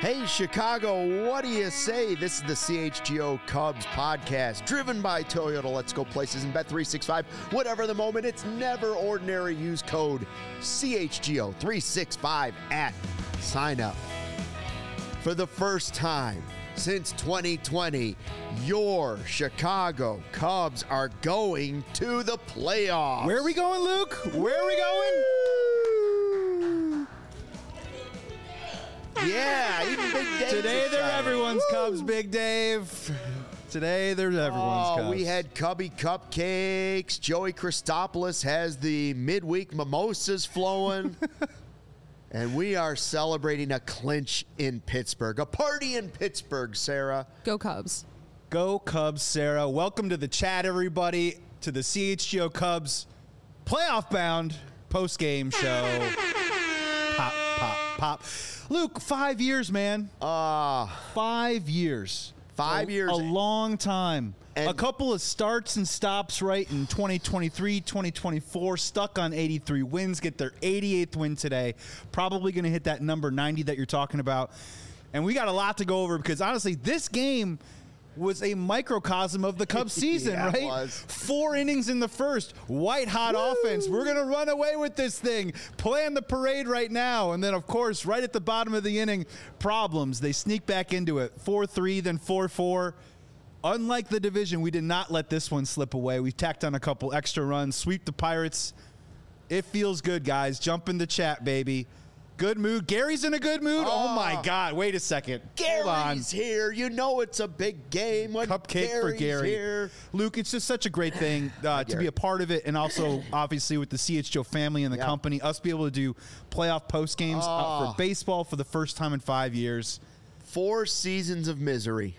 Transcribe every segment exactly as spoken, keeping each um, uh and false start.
Hey, Chicago, what do you say? This is the C H G O Cubs podcast, driven by Toyota. Let's go places and bet three sixty-five. Whatever the moment, it's never ordinary. Use code C H G O three sixty-five at sign up. For the first time since twenty twenty, your Chicago Cubs are going to the playoffs. Where are we going, Luke? Where are we going? Yeah, even Big Dave. Today they're everyone's Woo! Cubs, Big Dave. Today they're everyone's oh, Cubs. We had Cubby cupcakes. Joey Christopoulos has the midweek mimosas flowing. And we are celebrating a clinch in Pittsburgh. A party in Pittsburgh, Sarah. Go Cubs. Go Cubs, Sarah. Welcome to the chat, everybody, to the C H G O Cubs playoff-bound post-game show. Pop, pop, pop. Luke, five years, man. Uh, five years. Five a, years. A long time. And a couple of starts and stops, right, in twenty twenty-three, twenty twenty-four, stuck on eighty-three wins, get their eighty-eighth win today. Probably going to hit that number ninety that you're talking about. And we got a lot to go over because, honestly, this game was a microcosm of the Cubs season, yeah, right? It was. Four innings in the first, white-hot offense. We're going to run away with this thing. Plan the parade right now. And then, of course, right at the bottom of the inning, problems. They sneak back into it. four three, then four four. Unlike the division, we did not let this one slip away. We tacked on a couple extra runs, sweep the Pirates. It feels good, guys. Jump in the chat, baby. Good mood. Gary's in a good mood. Oh, oh my God. Wait a second. Gary's here. You know it's a big game when Cupcake Gary's for Gary. Here. Luke, it's just such a great thing uh, to be a part of it, and also, obviously, with the C H G O family and the yeah. company, us be able to do playoff post games oh. uh, for baseball for the first time in five years. Four seasons of misery,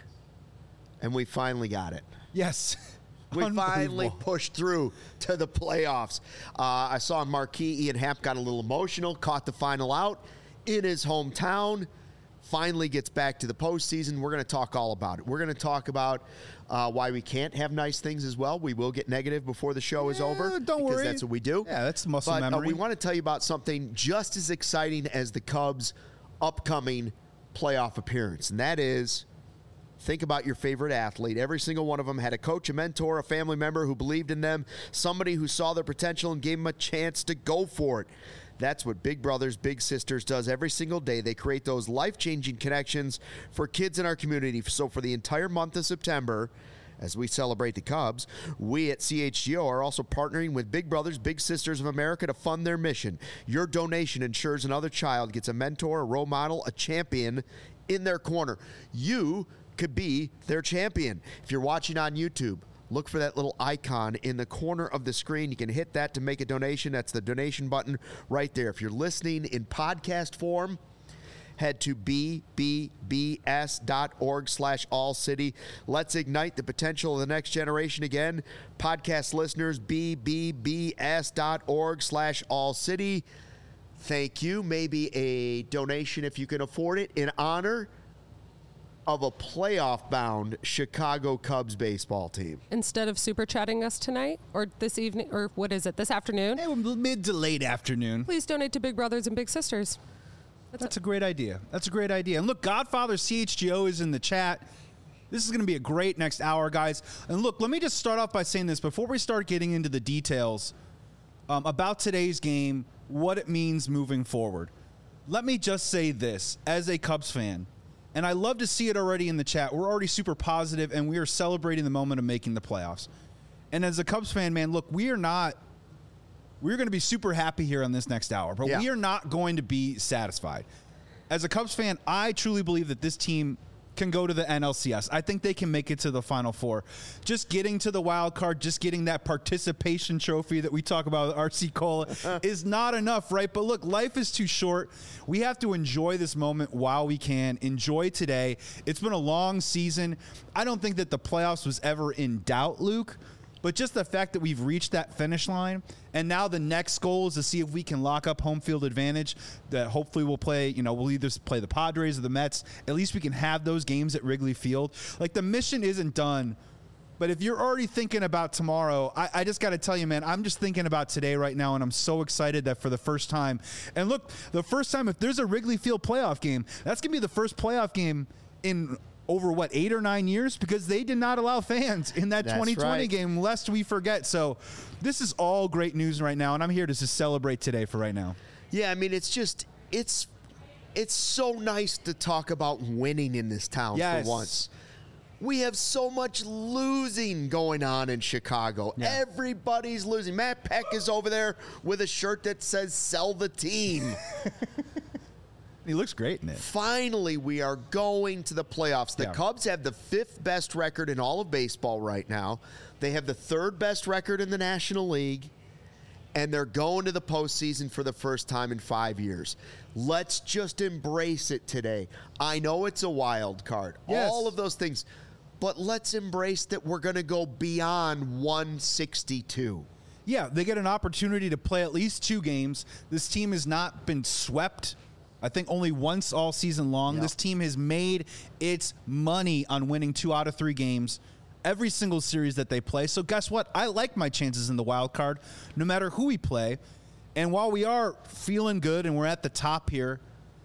and we finally got it. Yes. We finally pushed through to the playoffs. Uh, I saw on Marquee, Ian Happ got a little emotional, caught the final out in his hometown, finally gets back to the postseason. We're going to talk all about it. We're going to talk about uh, why we can't have nice things as well. We will get negative before the show is yeah, over. Don't because worry. That's what we do. Yeah, that's muscle but, memory. Uh, we want to tell you about something just as exciting as the Cubs' upcoming playoff appearance, and that is... Think about your favorite athlete. Every single one of them had a coach, a mentor, a family member who believed in them, somebody who saw their potential and gave them a chance to go for it. That's what Big Brothers Big Sisters does every single day. They create those life-changing connections for kids in our community. So for the entire month of September, as we celebrate the Cubs, we at C H G O are also partnering with Big Brothers Big Sisters of America to fund their mission. Your donation ensures another child gets a mentor, a role model, a champion in their corner. You could be their champion. If you're watching on YouTube, look for that little icon in the corner of the screen. You can hit that to make a donation. That's the donation button right there. If you're listening in podcast form, head to b b b s dot org slash all city. Let's ignite the potential of the next generation again. Podcast listeners, b b b s dot org slash all city. Thank you. Maybe a donation if you can afford it in honor of a playoff-bound Chicago Cubs baseball team. Instead of super chatting us tonight or this evening, or what is it, this afternoon? Hey, mid to late afternoon. Please donate to Big Brothers and Big Sisters. That's, That's a great idea. That's a great idea. And look, Godfather C H G O is in the chat. This is going to be a great next hour, guys. And look, let me just start off by saying this before we start getting into the details um, about today's game, what it means moving forward. Let me just say this as a Cubs fan. And I love to see it already in the chat. We're already super positive, and we are celebrating the moment of making the playoffs. And as a Cubs fan, man, look, we are not – we're going to be super happy here on this next hour, but yeah. we are not going to be satisfied. As a Cubs fan, I truly believe that this team can go to the N L C S. I think they can make it to the Final Four. Just getting to the wild card, just getting that participation trophy that we talk about with R C Cola is not enough, right? But look, life is too short. We have to enjoy this moment while we can. Enjoy today. It's been a long season. I don't think that the playoffs was ever in doubt, Luke. But just the fact that we've reached that finish line, and now the next goal is to see if we can lock up home field advantage. That hopefully we'll play, you know, we'll either play the Padres or the Mets. At least we can have those games at Wrigley Field. Like, the mission isn't done But if you're already thinking about tomorrow, I, I just got to tell you, man, I'm just thinking about today right now, and I'm so excited that for the first time, and look, the first time, if there's a Wrigley Field playoff game, that's going to be the first playoff game in over, what, eight or nine years? Because they did not allow fans in that That's twenty twenty right. game, lest we forget. So this is all great news right now, and I'm here to just celebrate today for right now. Yeah, I mean, it's just, it's it's so nice to talk about winning in this town Yes. for once. We have so much losing going on in Chicago. Yeah. Everybody's losing. Matt Peck is over there with a shirt that says "Sell the team." He looks great in it. Finally, we are going to the playoffs. The Yeah. Cubs have the fifth best record in all of baseball right now. They have the third best record in the National League, and they're going to the postseason for the first time in five years. Let's just embrace it today. I know it's a wild card, Yes. all of those things, but let's embrace that we're going to go beyond one sixty-two. Yeah, they get an opportunity to play at least two games. This team has not been swept, I think, only once all season long. Yep. This team has made its money on winning two out of three games every single series that they play. So guess what? I like my chances in the wild card, no matter who we play. And while we are feeling good and we're at the top here,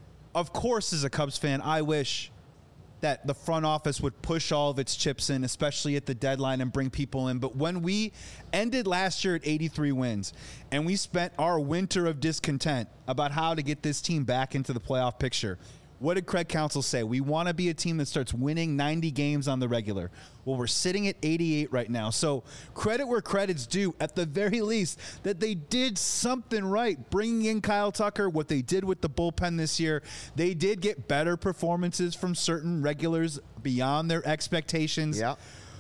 of course, as a Cubs fan, I wish that the front office would push all of its chips in, especially at the deadline, and bring people in. But when we ended last year at eighty-three wins and we spent our winter of discontent about how to get this team back into the playoff picture, what did Craig Counsell say? We want to be a team that starts winning ninety games on the regular. Well, we're sitting at eighty-eight right now. So credit where credit's due, at the very least, that they did something right. Bringing in Kyle Tucker, what they did with the bullpen this year, they did get better performances from certain regulars beyond their expectations. Yeah.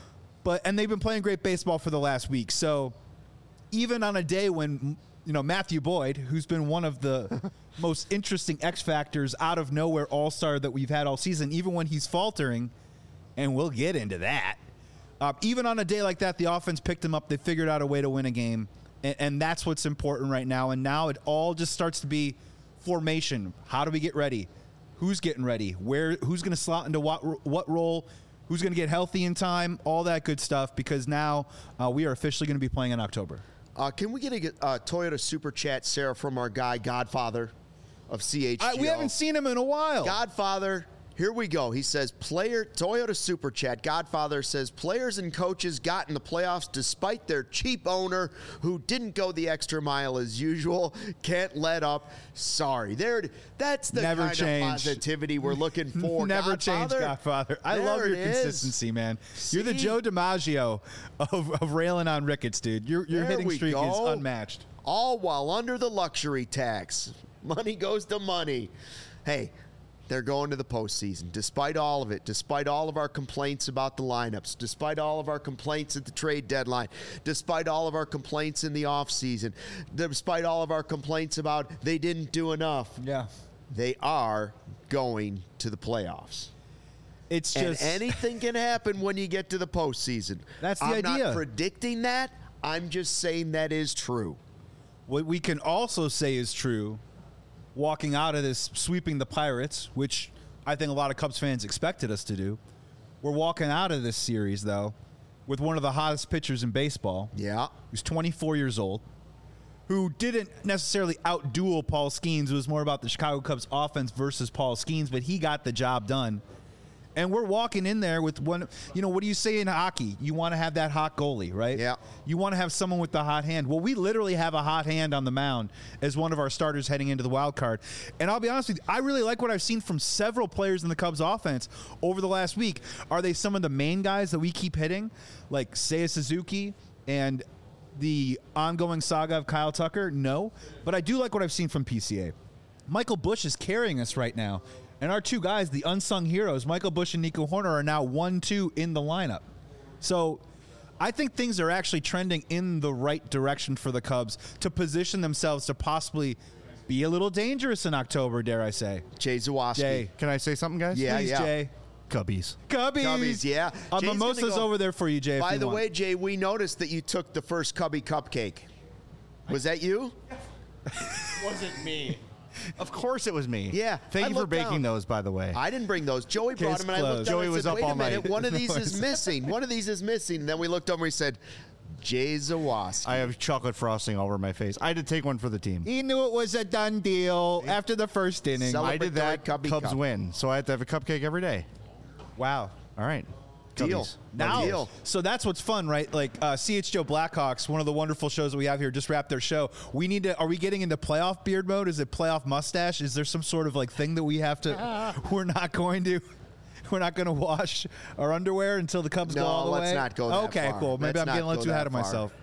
But and they've been playing great baseball for the last week. So even on a day when, you know, Matthew Boyd, who's been one of the most interesting X factors out of nowhere all-star that we've had all season, even when he's faltering, and we'll get into that. Uh, even on a day like that, the offense picked him up. They figured out a way to win a game, and, and that's what's important right now. And now it all just starts to be formation. How do we get ready? Who's getting ready? Where? Who's going to slot into what what role? Who's going to get healthy in time? All that good stuff, because now uh, we are officially going to be playing in October. Uh, can we get a uh, Toyota Super Chat, Sarah, from our guy, Godfather of C H G O? I, we haven't seen him in a while. Godfather, here we go. He says, player Toyota Super Chat. Godfather says, players and coaches got in the playoffs despite their cheap owner who didn't go the extra mile as usual. Can't let up. Sorry. There, it- that's the Never kind change. of positivity we're looking for. Never change, Godfather. Godfather. I There love your it is. consistency, man. You're the See? Joe DiMaggio of, of railing on Ricketts, dude. Your your There hitting we streak is go. unmatched. All while under the luxury tax. Money goes to money. Hey, they're going to the postseason. Despite all of it, despite all of our complaints about the lineups, despite all of our complaints at the trade deadline, despite all of our complaints in the offseason, despite all of our complaints about they didn't do enough, Yeah. they are going to the playoffs. It's And just anything can happen when you get to the postseason. That's the I'm idea. not predicting that. I'm just saying that is true. what we can also say is true. Walking out of this, sweeping the Pirates, which I think a lot of Cubs fans expected us to do. We're walking out of this series, though, with one of the hottest pitchers in baseball. Yeah. Who's twenty-four years old, who didn't necessarily outduel Paul Skeens. It was more about the Chicago Cubs offense versus Paul Skeens, but he got the job done. And we're walking in there with one, you know, what do you say in hockey? You want to have that hot goalie, right? Yeah. You want to have someone with the hot hand. Well, we literally have a hot hand on the mound as one of our starters heading into the wild card. And I'll be honest with you, I really like what I've seen from several players in the Cubs offense over the last week. Are they some of the main guys that we keep hitting, like Seiya Suzuki and the ongoing saga of Kyle Tucker? No. But I do like what I've seen from P C A. Michael Busch is carrying us right now. And our two guys, the unsung heroes, Michael Busch and Nico Horner, are now one two in the lineup. So I think things are actually trending in the right direction for the Cubs to position themselves to possibly be a little dangerous in October, dare I say. Jay Zawoski. Jay. Can I say something, guys? Yeah, Please, yeah. Jay. Cubbies. Cubbies. Cubbies, yeah. A Jay's mimosa's gonna go- over there for you, Jay. if By you the want. way, Jay, we noticed that you took the first Cubby cupcake. Was that you? Wasn't me. Of course it was me. Yeah, Thank I you for looked baking down. those, by the way. I didn't bring those. Joey brought Case them, and I looked closed. down Joey and I was said, up wait all a minute, night. one of these is missing. One of these is missing. And then we looked over and we said, Jay Zawaski. I have chocolate frosting all over my face. I had to take one for the team. He knew it was a done deal after the first inning. Celebrate I did that. Cubby Cubs Cup. win, so I had to have a cupcake every day. Wow. All right. Deal. Cubbies. Now, Deal. so that's what's fun, right? Like uh, C H G O Blackhawks, one of the wonderful shows that we have here, just wrapped their show. We need to. Are we getting into playoff beard mode? Is it playoff mustache? Is there some sort of like thing that we have to? We're not going to. We're not going to wash our underwear until the Cubs No, go all the let's way. not go that Okay, far. cool. Maybe Let's I'm not getting a little go too that ahead of far. myself.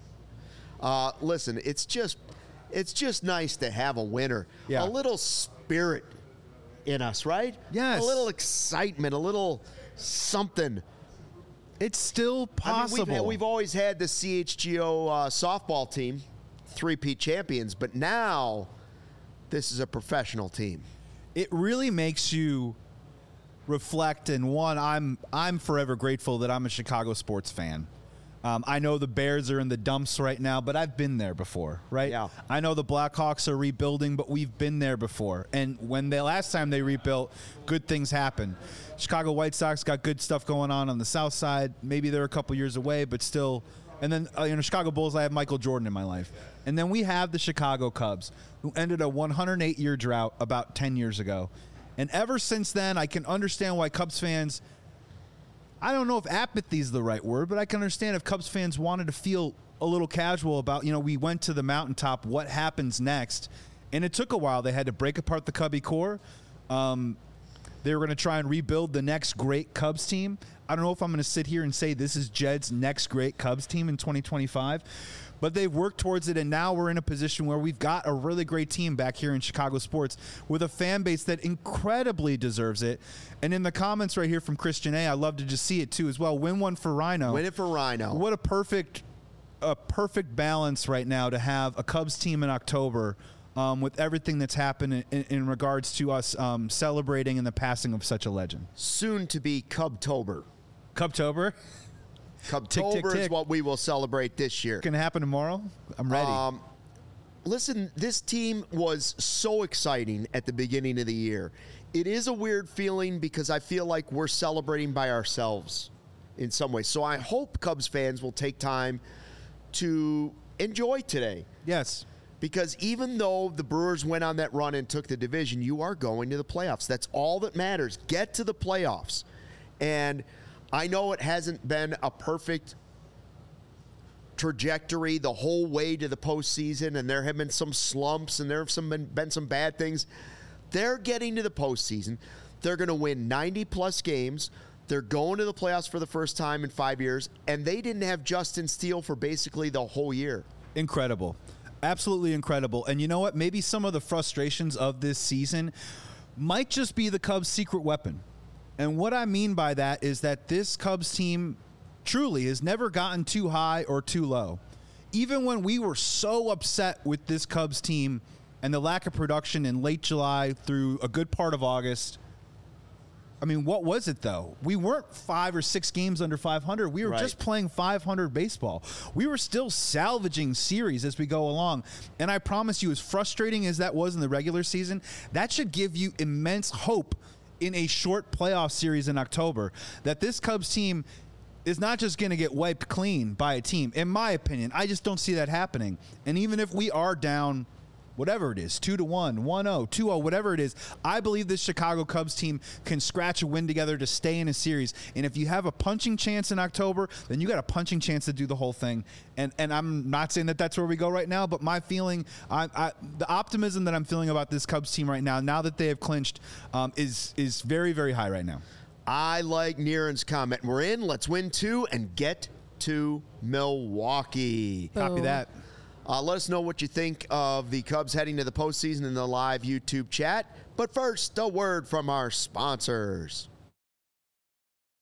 Uh, listen, it's just, it's just nice to have a winner. Yeah. A little spirit in us, right? Yes. A little excitement, a little something. It's still possible. I mean, we've, we've always had the C H G O uh, softball team, three-peat champions, but now this is a professional team. It really makes you reflect. And one, I'm I'm forever grateful that I'm a Chicago sports fan. Um, I know the Bears are in the dumps right now, but I've been there before, right? Yeah. I know the Blackhawks are rebuilding, but we've been there before. And when the last time they rebuilt, good things happened. Chicago White Sox got good stuff going on on the south side. Maybe they're a couple years away, but still. And then, uh, you know, Chicago Bulls, I have Michael Jordan in my life. And then we have the Chicago Cubs, who ended a one hundred eight year drought about ten years ago. And ever since then, I can understand why Cubs fans, I don't know if apathy is the right word, but I can understand if Cubs fans wanted to feel a little casual about, you know, we went to the mountaintop, what happens next? And it took a while. They had to break apart the Cubby core. Um, they were going to try and rebuild the next great Cubs team. I don't know if I'm going to sit here and say this is Jed's next great Cubs team in twenty twenty-five, but they've worked towards it, and now we're in a position where we've got a really great team back here in Chicago sports with a fan base that incredibly deserves it. And in the comments right here from Christian A, I love to just see it too as well. Win one for Rhino. Win it for Rhino. What a perfect, a perfect balance right now to have a Cubs team in October. Um, with everything that's happened in, in regards to us um, celebrating in the passing of such a legend. Soon to be Cubtober. Cubtober? Cubtober Tick, tick, is tick. what we will celebrate this year. Going to happen tomorrow? I'm ready. Um, listen, this team was so exciting at the beginning of the year. It is a weird feeling because I feel like we're celebrating by ourselves in some ways. So I hope Cubs fans will take time to enjoy today. Yes. Because even though the Brewers went on that run and took the division, you are going to the playoffs. That's all that matters. Get to the playoffs. And I know it hasn't been a perfect trajectory the whole way to the postseason, and there have been some slumps, and there have some been, been some bad things. They're getting to the postseason. They're going to win ninety-plus games. They're going to the playoffs for the first time in five years, and they didn't have Justin Steele for basically the whole year. Incredible. Absolutely incredible. And you know what? Maybe some of the frustrations of this season might just be the Cubs' secret weapon. And what I mean by that is that this Cubs team truly has never gotten too high or too low. Even when we were so upset with this Cubs team and the lack of production in late July through a good part of August, I mean, what was it, though? We weren't five or six games under five hundred. We were Right. just playing five hundred baseball. We were still salvaging series as we go along. And I promise you, as frustrating as that was in the regular season, that should give you immense hope in a short playoff series in October that this Cubs team is not just going to get wiped clean by a team. In my opinion, I just don't see that happening. And even if we are down whatever it is, two to one, one oh, two oh, whatever it is, I believe this Chicago Cubs team can scratch a win together to stay in a series. And if you have a punching chance in October, then you got a punching chance to do the whole thing. And and I'm not saying that that's where we go right now, but my feeling, I, I, the optimism that I'm feeling about this Cubs team right now, now that they have clinched, um, is is very, very high right now. I like Niren's comment. We're in. Let's win two and get to Milwaukee. Copy Boom. that. Uh, let us know what you think of the Cubs heading to the postseason in the live YouTube chat. But first, a word from our sponsors.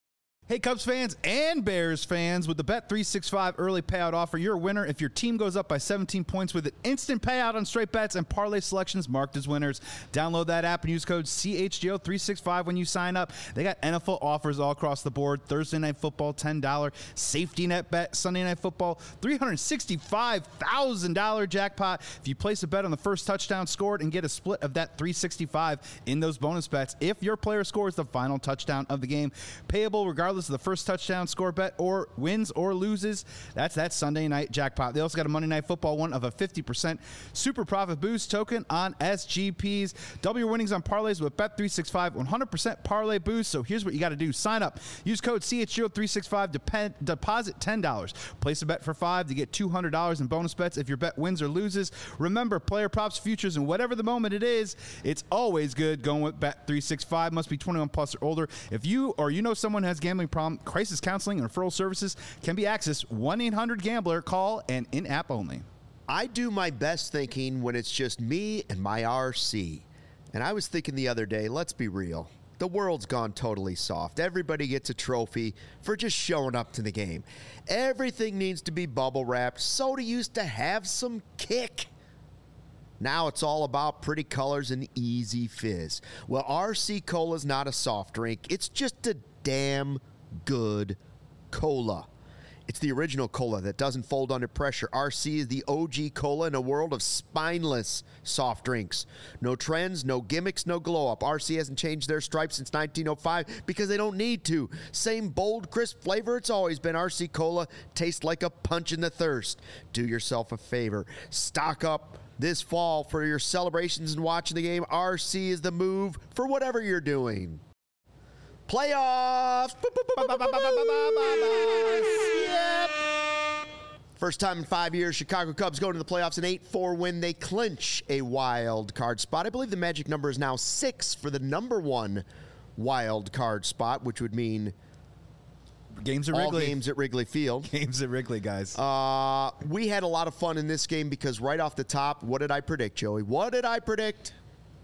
Hey, Cubs fans and Bears fans, with the Bet three sixty-five early payout offer, you're a winner if your team goes up by seventeen points with an instant payout on straight bets and parlay selections marked as winners. Download that app and use code C H G O three sixty-five when you sign up. They got N F L offers all across the board. Thursday Night Football, ten dollars. Safety net bet, Sunday Night Football, three hundred sixty-five thousand dollars jackpot. If you place a bet on the first touchdown scored and get a split of that three sixty-five in those bonus bets, if your player scores the final touchdown of the game, payable regardless of the first touchdown score bet or wins or loses. That's that Sunday night jackpot. They also got a Monday Night Football one of a fifty percent super profit boost token on S G Ps. Double your winnings on parlays with Bet three sixty-five one hundred percent parlay boost. So here's what you got to do. Sign up. Use code C H G O three sixty-five. Depend, deposit ten dollars. Place a bet for five to get two hundred dollars in bonus bets if your bet wins or loses. Remember, player props, futures, and whatever the moment it is, it's always good going with Bet three sixty-five. Must be twenty-one plus or older. If you or you know someone has gambling problem, crisis counseling and referral services can be accessed. one eight hundred gambler. Call and in-app only. I do my best thinking when it's just me and my R C. And I was thinking the other day, let's be real. The world's gone totally soft. Everybody gets a trophy for just showing up to the game. Everything needs to be bubble wrapped. Soda used to have some kick. Now it's all about pretty colors and easy fizz. Well, R C Cola's not a soft drink. It's just a damn good cola. It's the original cola that doesn't fold under pressure. R C is the O G cola in a world of spineless soft drinks. No trends, no gimmicks, no glow up. R C hasn't changed their stripes since nineteen oh five because they don't need to. Same bold, crisp flavor it's always been. R C Cola tastes like a punch in the thirst. Do yourself a favor. Stock up this fall for your celebrations and watching the game. R C is the move for whatever you're doing. Playoffs. Yep. First time in five years, Chicago Cubs go to the playoffs, an eight four win. They clinch a wild card spot. I believe the magic number is now six for the number one wild card spot, which would mean Games at all Wrigley. games at Wrigley Field. Games at Wrigley, guys. Uh, we had a lot of fun in this game because right off the top, what did I predict, Joey? What did I predict?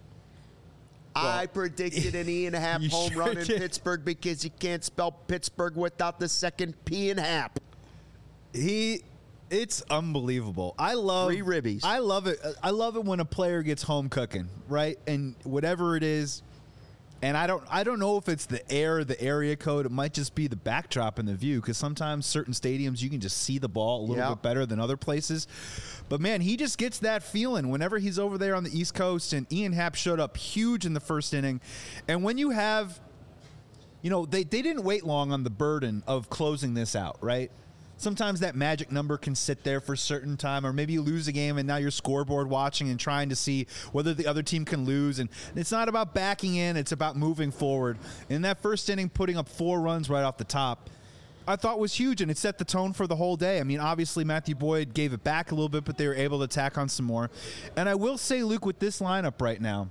I predicted an E and a half You home sure run in did. Pittsburgh because you can't spell Pittsburgh without the second P in hap. He, it's unbelievable. I love Three ribbies. I love it. I love it when a player gets home cooking, right? And whatever it is, and I don't, I don't know if it's the air, the area code. It might just be the backdrop and the view, because sometimes certain stadiums you can just see the ball a little Yeah. bit better than other places. But man, he just gets that feeling whenever he's over there on the East Coast. And Ian Happ showed up huge in the first inning. And when you have, you know, they they didn't wait long on the burden of closing this out, right? Sometimes that magic number can sit there for a certain time, or maybe you lose a game and now you're scoreboard watching and trying to see whether the other team can lose. And it's not about backing in, it's about moving forward. In that first inning, putting up four runs right off the top, I thought was huge, and it set the tone for the whole day. I mean, obviously Matthew Boyd gave it back a little bit, but they were able to tack on some more. And I will say, Luke, with this lineup right now,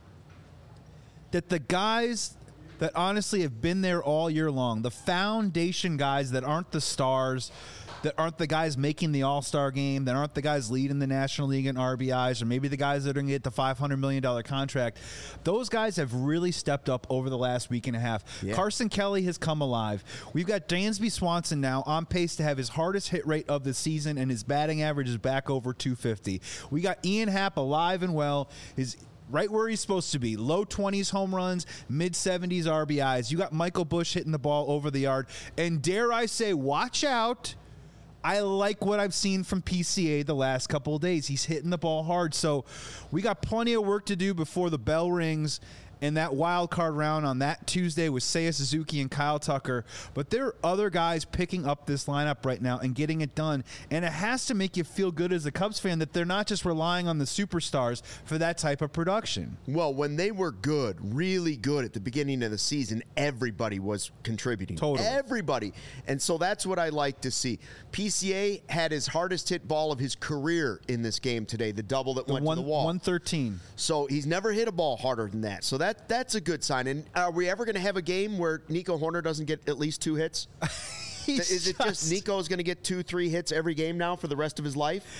that the guys that honestly have been there all year long, the foundation guys that aren't the stars, that aren't the guys making the All-Star game, that aren't the guys leading the National League in R B Is, or maybe the guys that are going to get the five hundred million dollars contract, those guys have really stepped up over the last week and a half. Yeah. Carson Kelly has come alive. We've got Dansby Swanson now on pace to have his hardest hit rate of the season, and his batting average is back over two fifty. We got Ian Happ alive and well. His right where he's supposed to be. Low twenties home runs, mid seventies R B Is. You got Michael Busch hitting the ball over the yard. And dare I say, watch out. I like what I've seen from P C A the last couple of days. He's hitting the ball hard. So we got plenty of work to do before the bell rings in that wild card round on that Tuesday with Seiya Suzuki and Kyle Tucker. But there are other guys picking up this lineup right now and getting it done. And it has to make you feel good as a Cubs fan that they're not just relying on the superstars for that type of production. Well, when they were good, really good at the beginning of the season, everybody was contributing. Totally. Everybody. And so that's what I like to see. P C A had his hardest hit ball of his career in this game today, the double that The went one, to the wall. one thirteen. So he's never hit a ball harder than that. So that that's a good sign. And are we ever going to have a game where Nico Horner doesn't get at least two hits? Is it just Nico's going to get two, three hits every game now for the rest of his life?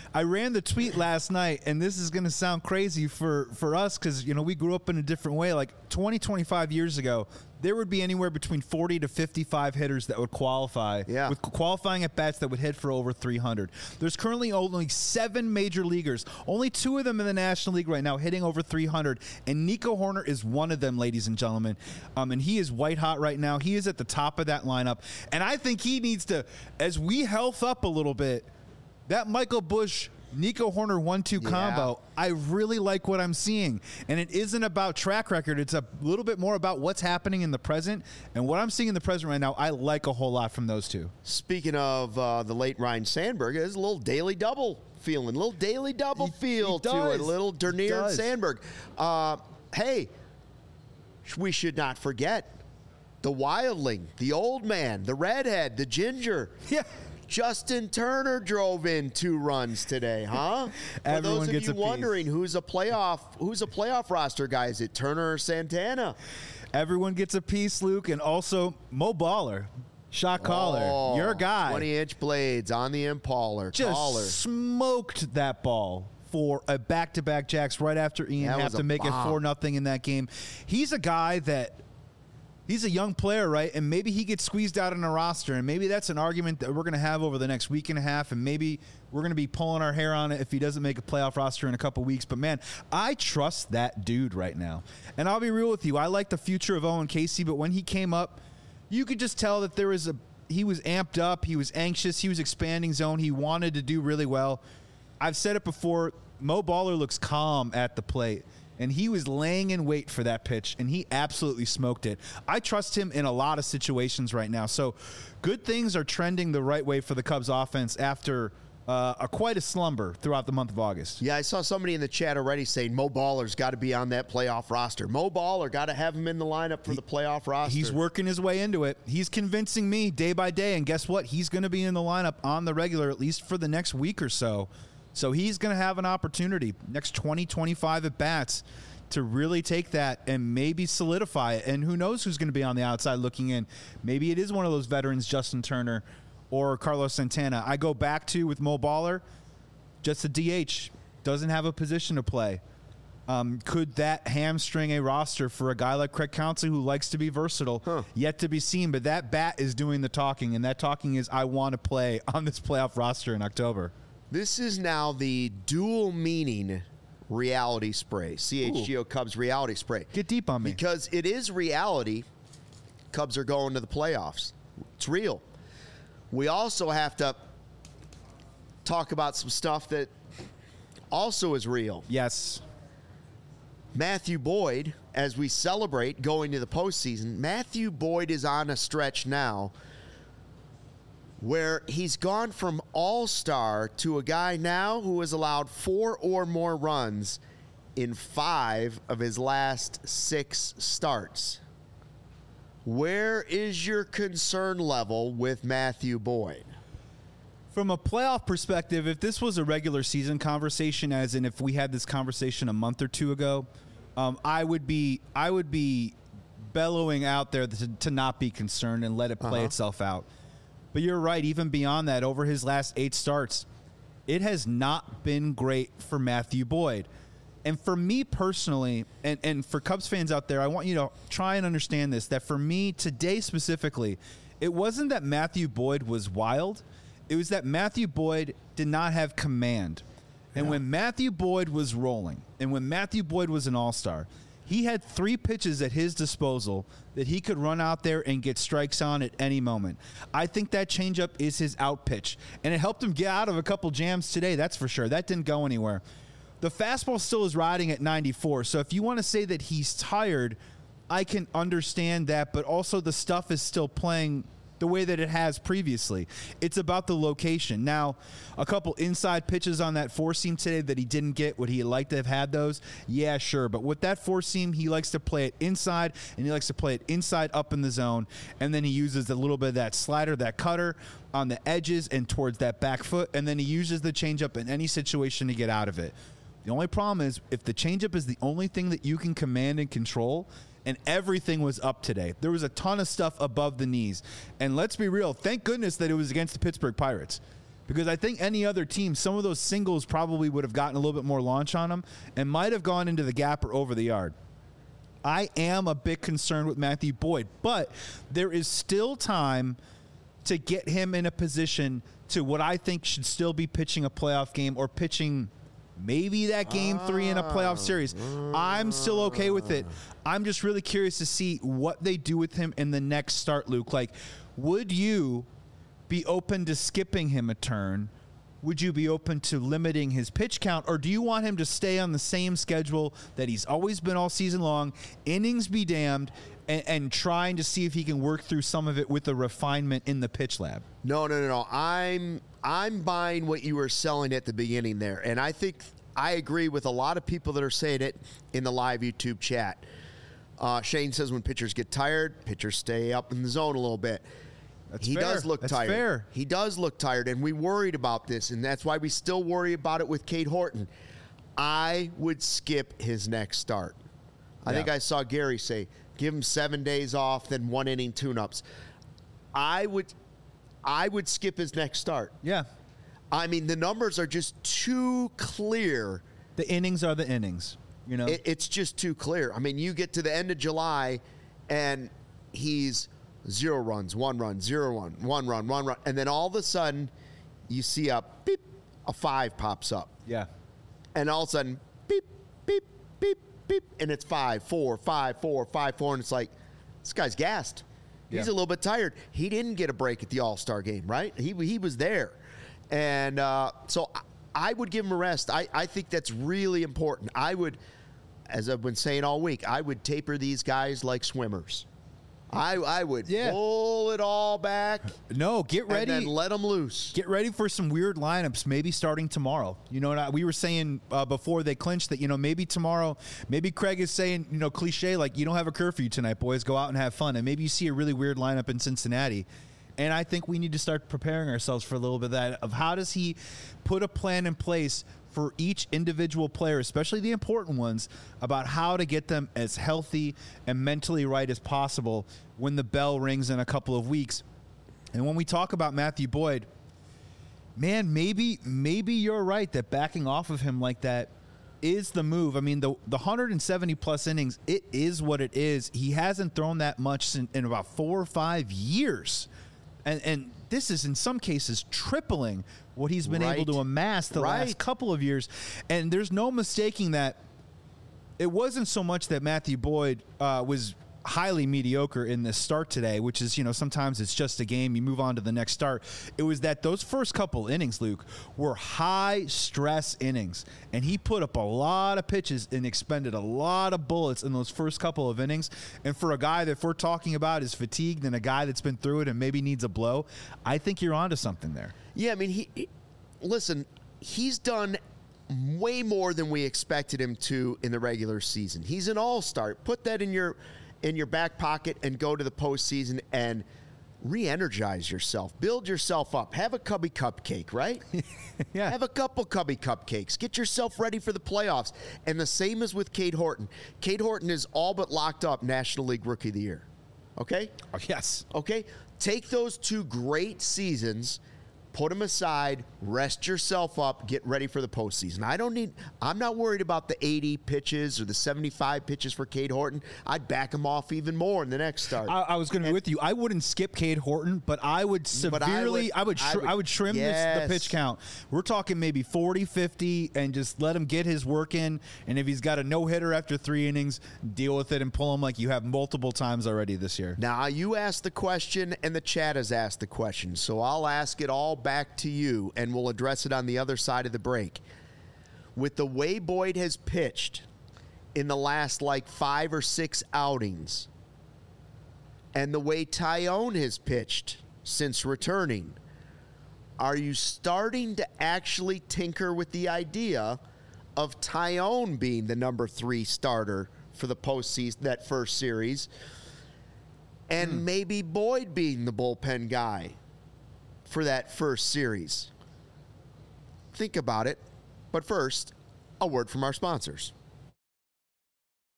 I ran the tweet last night, and this is going to sound crazy for, for us because, you know, we grew up in a different way. Like twenty, twenty-five years ago, there would be anywhere between forty to fifty-five hitters that would qualify Yeah. with qualifying at bats that would hit for over three hundred. There's currently only seven major leaguers, only two of them in the National League right now hitting over three hundred, and Nico Horner is one of them, ladies and gentlemen. Um, and he is white hot right now. He is at the top of that lineup, and I think he needs to, as we health up a little bit, that Michael Busch, Nico Horner one two Yeah. combo, I really like what I'm seeing. And it isn't about track record. It's a little bit more about what's happening in the present. And what I'm seeing in the present right now, I like a whole lot from those two. Speaking of uh, the late Ryan Sandberg, there's a little daily double feeling, a little daily double He- feel he to it, does. a little He Dernier and does. Sandberg. Uh, hey, we should not forget the wildling, the old man, the redhead, the ginger. Yeah. Justin Turner drove in two runs today, huh? For Everyone those of gets you a piece. wondering who's a playoff, who's a playoff roster guy, is it Turner or Santana? Everyone gets a piece, Luke. And also, Mo Baller, shot caller, Oh, your guy, twenty-inch blades on the Impaler. just Caller. smoked that ball for a back-to-back jacks right after Ian That have was to a make it bomb. four nothing in that game. He's a guy that he's a young player, right? And maybe he gets squeezed out in a roster, and maybe that's an argument that we're going to have over the next week and a half, and maybe we're going to be pulling our hair on it if he doesn't make a playoff roster in a couple weeks. But, man, I trust that dude right now. And I'll be real with you. I like the future of Owen Casey, but when he came up, you could just tell that there was a he was amped up, he was anxious, he was expanding zone, he wanted to do really well. I've said it before, Mo Baller looks calm at the plate. And he was laying in wait for that pitch, and he absolutely smoked it. I trust him in a lot of situations right now. So good things are trending the right way for the Cubs offense after uh, a quite a slumber throughout the month of August. Yeah, I saw somebody in the chat already saying Mo Baller's got to be on that playoff roster. Mo Baller got to have him in the lineup for the playoff roster. He's working his way into it. He's convincing me day by day, and guess what? He's going to be in the lineup on the regular, at least for the next week or so. So he's going to have an opportunity next twenty, twenty-five at-bats to really take that and maybe solidify it. And who knows who's going to be on the outside looking in. Maybe it is one of those veterans, Justin Turner or Carlos Santana. I go back to, with Mo Baller, just a D H. Doesn't have a position to play. Um, could that hamstring a roster for a guy like Craig Counsell who likes to be versatile? Huh. Yet to be seen. But that bat is doing the talking, and that talking is, I want to play on this playoff roster in October. This is now the dual meaning reality spray. C H G O Cubs reality spray. Get deep on me. Because it is reality. Cubs are going to the playoffs. It's real. We also have to talk about some stuff that also is real. Yes. Matthew Boyd, as we celebrate going to the postseason, Matthew Boyd is on a stretch now where he's gone from all-star to a guy now who has allowed four or more runs in five of his last six starts. Where is your concern level with Matthew Boyd? From a playoff perspective, if this was a regular season conversation, as in if we had this conversation a month or two ago, um, I would be I would be bellowing out there to, to not be concerned and let it play Uh-huh. itself out. But you're right, even beyond that, over his last eight starts, it has not been great for Matthew Boyd. And for me personally, and, and for Cubs fans out there, I want you to try and understand this, that for me today specifically, it wasn't that Matthew Boyd was wild. It was that Matthew Boyd did not have command. And Yeah. when Matthew Boyd was rolling, and when Matthew Boyd was an all-star, he had three pitches at his disposal that he could run out there and get strikes on at any moment. I think that changeup is his out pitch, and it helped him get out of a couple jams today, that's for sure. That didn't go anywhere. The fastball still is riding at ninety-four, so if you want to say that he's tired, I can understand that, but also the stuff is still playing the way that it has previously. It's about the location. Now, a couple inside pitches on that four-seam today that he didn't get. Would he like to have had those? Yeah, sure. But with that four-seam, he likes to play it inside, and he likes to play it inside up in the zone, and then he uses a little bit of that slider, that cutter on the edges and towards that back foot, and then he uses the changeup in any situation to get out of it. The only problem is if the changeup is the only thing that you can command and control, and everything was up today. There was a ton of stuff above the knees. And let's be real, thank goodness that it was against the Pittsburgh Pirates. Because I think any other team, some of those singles probably would have gotten a little bit more launch on them and might have gone into the gap or over the yard. I am a bit concerned with Matthew Boyd, but there is still time to get him in a position to what I think should still be pitching a playoff game or pitching maybe that game three in a playoff series. I'm still okay with it. I'm just really curious to see what they do with him in the next start, Luke. Like, would you be open to skipping him a turn? Would you be open to limiting his pitch count, or do you want him to stay on the same schedule that he's always been all season long, innings be damned, and, and trying to see if he can work through some of it with the refinement in the pitch lab? No, no, no, no. I'm I'm buying what you were selling at the beginning there, and I think I agree with a lot of people that are saying it in the live YouTube chat. Uh, Shane says when pitchers get tired, pitchers stay up in the zone a little bit. That's he fair. does look That's tired. fair. He does look tired, and we worried about this, and that's why we still worry about it with Cade Horton. I would skip his next start. I Yeah. think I saw Gary say, give him seven days off, then one inning tune-ups. I would, I would skip his next start. Yeah. I mean, the numbers are just too clear. The innings are the innings, you know? It, it's just too clear. I mean, you get to the end of July, and he's zero runs, one run, zero run, one run, one run. And then all of a sudden, you see a beep, a five pops up. yeah. And all of a sudden, beep, beep, beep, beep. And it's five, four, five, four, five, four. And it's like, this guy's gassed. He's Yeah. a little bit tired. He didn't get a break at the All-Star game, right? He, he was there. And uh, so I, I would give him a rest. I, I think that's really important. I would, as I've been saying all week, I would taper these guys like swimmers. I I would Yeah. pull it all back No, get ready. and then let them loose. Get ready for some weird lineups, maybe starting tomorrow. You know, and I, we were saying uh, before they clinched that, you know, maybe tomorrow, maybe Craig is saying, you know, cliche, like, you don't have a curfew tonight, boys. Go out and have fun. And maybe you see a really weird lineup in Cincinnati. And I think we need to start preparing ourselves for a little bit of that, of how does he put a plan in place for each individual player, especially the important ones, about how to get them as healthy and mentally right as possible when the bell rings in a couple of weeks. And when we talk about Matthew Boyd, man, maybe maybe you're right that backing off of him like that is the move. I mean, the the one hundred seventy plus innings, it is what it is. He hasn't thrown that much in, in about four or five years. And and this is in some cases tripling what he's been Right. able to amass the Right. last couple of years. And there's no mistaking that it wasn't so much that Matthew Boyd uh, was highly mediocre in this start today, which is, you know, sometimes it's just a game, you move on to the next start. It was that those first couple innings, Luke, were high stress innings, and he put up a lot of pitches and expended a lot of bullets in those first couple of innings. And for a guy that if we're talking about is fatigued and a guy that's been through it and maybe needs a blow, I think you're onto something there. Yeah, I mean, he, he listen, he's done way more than we expected him to in the regular season. He's an all-star. Put that in your in your back pocket and go to the postseason and re-energize yourself. Build yourself up. Have a Cubby Cupcake, right? Yeah. Have a couple Cubby Cupcakes. Get yourself ready for the playoffs. And the same as with Cade Horton. Cade Horton is all but locked up National League Rookie of the Year. Okay? Oh, yes. Okay? Take those two great seasons, put them aside, rest yourself up, get ready for the postseason. I don't need, I'm not worried about the eighty pitches or the seventy-five pitches for Cade Horton. I'd back him off even more in the next start. I, I was going to be with you. I wouldn't skip Cade Horton, but I would But I severely, I would, would- I tr- would- I would trim this, yes. the pitch count. We're talking maybe forty, fifty, and just let him get his work in. And if he's got a no hitter after three innings, deal with it and pull him like you have multiple times already this year. Now, you asked the question, and the chat has asked the question, so I'll ask it all back to you, and we'll address it on the other side of the break. With the way Boyd has pitched in the last, like, five or six outings, and the way Tyone has pitched since returning, are you starting to actually tinker with the idea of Tyone being the number three starter for the postseason, that first series, and maybe Boyd being the bullpen guy for that first series? Think about it. But first, a word from our sponsors.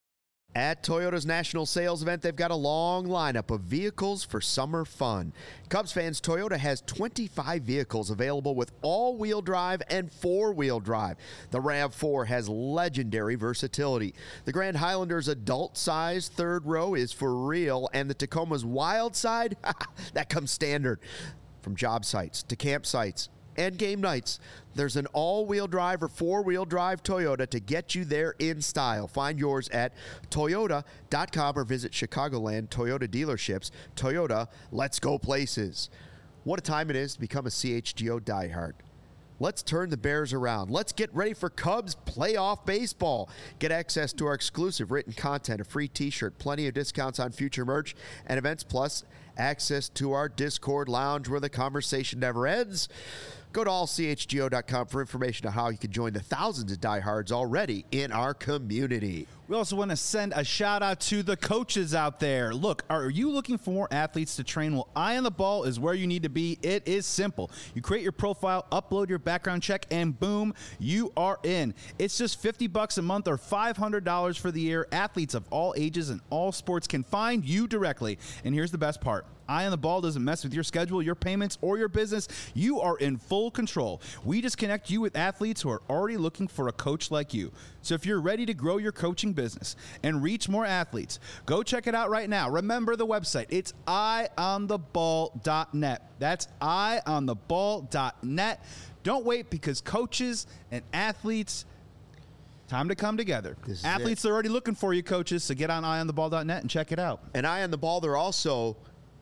At Toyota's national sales event, they've got a long lineup of vehicles for summer fun. Cubs fans, Toyota has twenty-five vehicles available with all-wheel drive and four-wheel drive. The RAV four has legendary versatility. The Grand Highlander's adult-sized third row is for real, and the Tacoma's wild side, that comes standard. From job sites to campsites and game nights, there's an all-wheel drive or four-wheel drive Toyota to get you there in style. Find yours at toyota dot com or visit Chicagoland Toyota dealerships. Toyota, let's go places. What a time it is to become a C H G O diehard. Let's turn the Bears around. Let's get ready for Cubs playoff baseball. Get access to our exclusive written content, a free t-shirt, plenty of discounts on future merch and events, plus access to our Discord lounge where the conversation never ends. Go to all c h g o dot com for information on how you can join the thousands of diehards already in our community. We also want to send a shout out to the coaches out there. Look, are you looking for more athletes to train? Well, Eye on the Ball is where you need to be. It is simple. You create your profile, upload your background check, and boom, you are in. It's just fifty bucks a month or five hundred dollars for the year. Athletes of all ages and all sports can find you directly. And here's the best part. Eye on the Ball doesn't mess with your schedule, your payments, or your business. You are in full control. We just connect you with athletes who are already looking for a coach like you. So if you're ready to grow your coaching business and reach more athletes, go check it out right now. Remember the website. It's eye on the ball dot net. That's eye on the ball dot net. Don't wait, because coaches and athletes, time to come together. Athletes are already looking for you, coaches, so get on eye on the ball dot net and check it out. And Eye on the Ball, they're also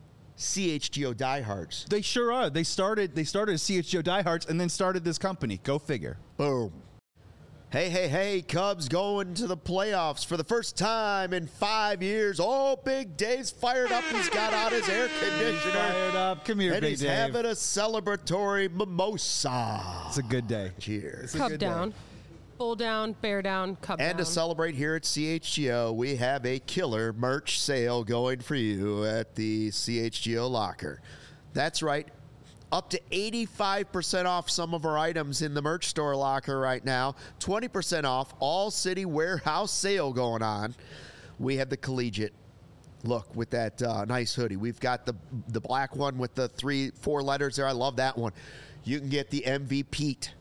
C H G O diehards. They sure are. They started they started as C H G O diehards and then started this company. Go figure. Boom. Hey, hey, hey, Cubs going to the playoffs for the first time in five years. Oh, Big Dave's fired up. He's got out his air conditioner. Fired up. Come here, and Big he's Dave. having a celebratory mimosa. It's a good day. Cheers. Cub down. Bull down, bear down, cub And down. to celebrate here at C H G O, we have a killer merch sale going for you at the C H G O locker. That's right. Up to eighty-five percent off some of our items in the merch store locker right now. twenty percent off all city warehouse sale going on. We have the collegiate look with that uh, nice hoodie. We've got the the black one with the three, four letters there. I love that one. You can get the M V Pete.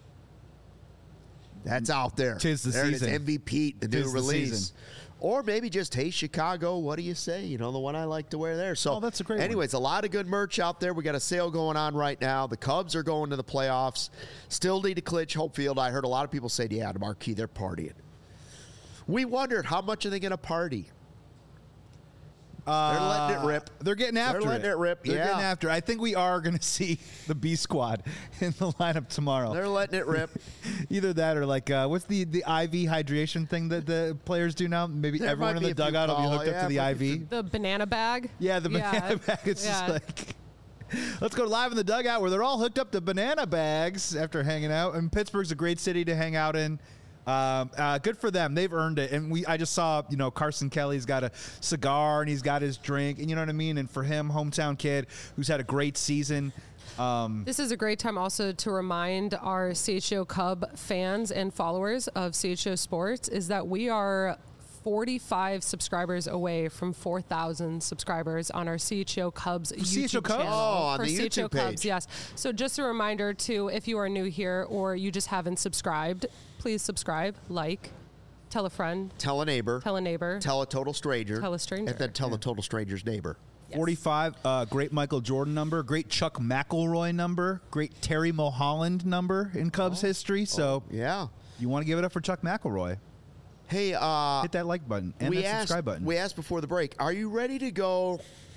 That's out there. Tis the there season. It is, M V Pete, the Tis new the release. season. Or maybe just, hey, Chicago, what do you say? You know, the one I like to wear there. So, Oh, that's a great one. anyways, a lot of good merch out there. We got a sale going on right now. The Cubs are going to the playoffs. Still need to clinch Hope Field. I heard a lot of people say, yeah, the Marquee, they're partying. We wondered, how much are they going to party? They're letting it rip. They're getting after They're letting it rip, They're yeah. getting after it. I think we are going to see the B squad in the lineup tomorrow. They're letting it rip. Either that or like, uh, what's the, the I V hydration thing that the players do now? Maybe There everyone might in be the a few dugout will be call- hooked up yeah, to the but I V. the banana bag. Yeah, the Yeah. banana bag. It's Yeah. just like, let's go live in the dugout where they're all hooked up to banana bags after hanging out. And Pittsburgh's a great city to hang out in. Um, uh, good for them. They've earned it. And we, I just saw, you know, Carson Kelly's got a cigar and he's got his drink, and you know what I mean? And for him, hometown kid who's had a great season. Um, This is a great time also to remind our C H O Cub fans and followers of C H O Sports is that we are forty-five subscribers away from four thousand subscribers on our C H O Cubs YouTube C H O Cubs? channel. Oh, on for the C H O YouTube Cubs, page. yes. So just a reminder to, if you are new here or you just haven't subscribed, please subscribe, like, tell a friend, Tell a neighbor. tell a neighbor. Tell a total stranger. Tell a stranger. And then tell a total stranger's neighbor. Yes. forty-five, uh, great Michael Jordan number, great Chuck McElroy number, great Terry Mulholland number in Cubs history. So Yeah. you want to give it up for Chuck McElroy. Hey, uh, Hit that like button and we that asked, subscribe button. We asked before the break, are you ready to go?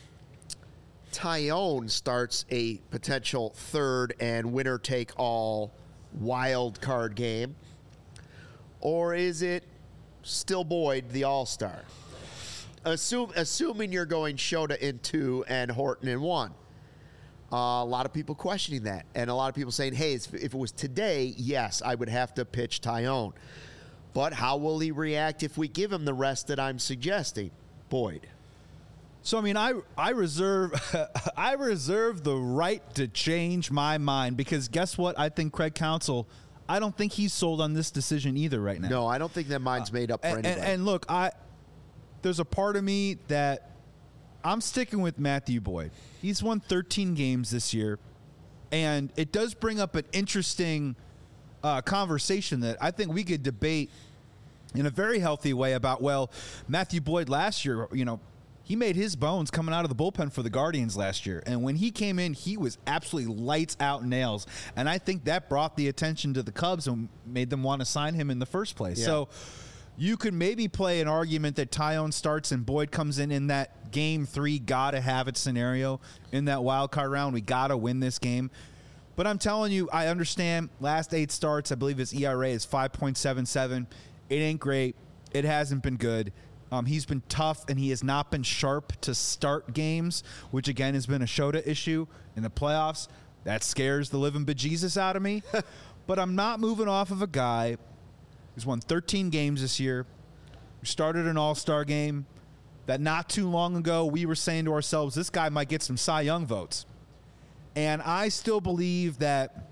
Tyone starts a potential third and winner take all wild card game. Or is it still Boyd, the all-star? Assume, assuming you're going Shota in two and Horton in one. Uh, a lot of people questioning that. And a lot of people saying, hey, if if it was today, yes, I would have to pitch Tyone. But how will he react if we give him the rest that I'm suggesting? Boyd. So I mean, I I reserve I reserve the right to change my mind, because guess what? I think Craig Counsell, I don't think he's sold on this decision either right now. No, I don't think that mind's made up for and, anybody. and, and look, I there's a part of me that I'm sticking with Matthew Boyd. He's won thirteen games this year, and it does bring up an interesting uh, conversation that I think we could debate in a very healthy way about, well, Matthew Boyd last year, you know, he made his bones coming out of the bullpen for the Guardians last year. And when he came in, he was absolutely lights out nails. And I think that brought the attention to the Cubs and made them want to sign him in the first place. Yeah. So you could maybe play an argument that Tyone starts and Boyd comes in in that game three, gotta have it scenario in that wild card round. We gotta win this game. But I'm telling you, I understand last eight starts, I believe his E R A is five point seven seven. It ain't great. It hasn't been good. Um, he's been tough, and he has not been sharp to start games, which, again, has been a Shota issue in the playoffs. That scares the living bejesus out of me. But I'm not moving off of a guy who's won thirteen games this year, who started an all-star game, that not too long ago we were saying to ourselves, this guy might get some Cy Young votes. And I still believe that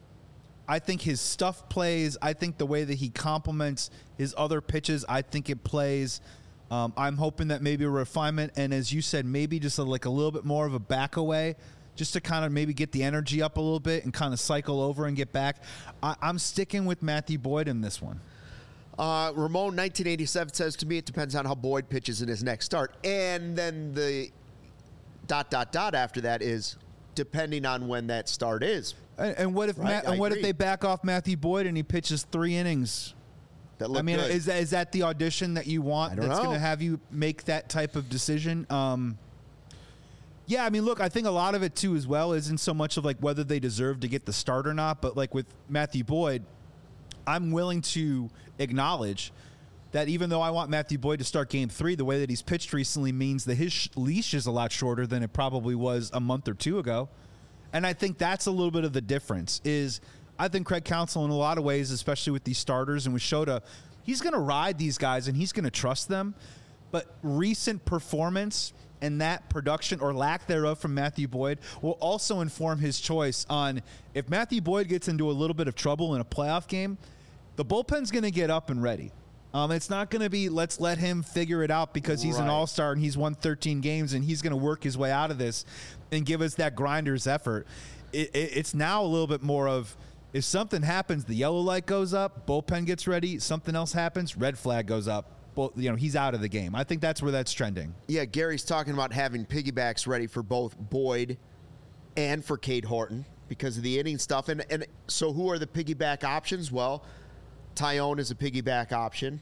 I think his stuff plays. I think the way that he complements his other pitches, I think it plays. Um, I'm hoping that maybe a refinement, and as you said, maybe just a, like a little bit more of a back away, just to kind of maybe get the energy up a little bit and kind of cycle over and get back. I, I'm sticking with Matthew Boyd in this one. Uh, Ramon nineteen eighty-seven says to me, it depends on how Boyd pitches in his next start. And then the dot, dot, dot after that is depending on when that start is. And, and what if Right, Ma- and I what agree. if they back off Matthew Boyd and he pitches three innings? That look I mean, good. is that is that the audition that you want? I don't that's know. going to have you make that type of decision? Um, yeah, I mean, look, I think a lot of it too, as well, isn't so much of like whether they deserve to get the start or not, but like with Matthew Boyd, I'm willing to acknowledge that even though I want Matthew Boyd to start game three, the way that he's pitched recently means that his sh- leash is a lot shorter than it probably was a month or two ago. And I think that's a little bit of the difference is I think Craig Counsell in a lot of ways, especially with these starters and with Shota, he's going to ride these guys and he's going to trust them. But recent performance and that production or lack thereof from Matthew Boyd will also inform his choice on if Matthew Boyd gets into a little bit of trouble in a playoff game, the bullpen's going to get up and ready. Um, it's not going to be let's let him figure it out because he's an Right. all-star and he's won thirteen games and he's going to work his way out of this and give us that grinder's effort. It, it, it's now a little bit more of if something happens, the yellow light goes up, bullpen gets ready, something else happens, red flag goes up. Well, you know, he's out of the game. I think that's where that's trending. Yeah, Gary's talking about having piggybacks ready for both Boyd and for Cade Horton because of the inning stuff. And and so who are the piggyback options? Well, Tyone is a piggyback option.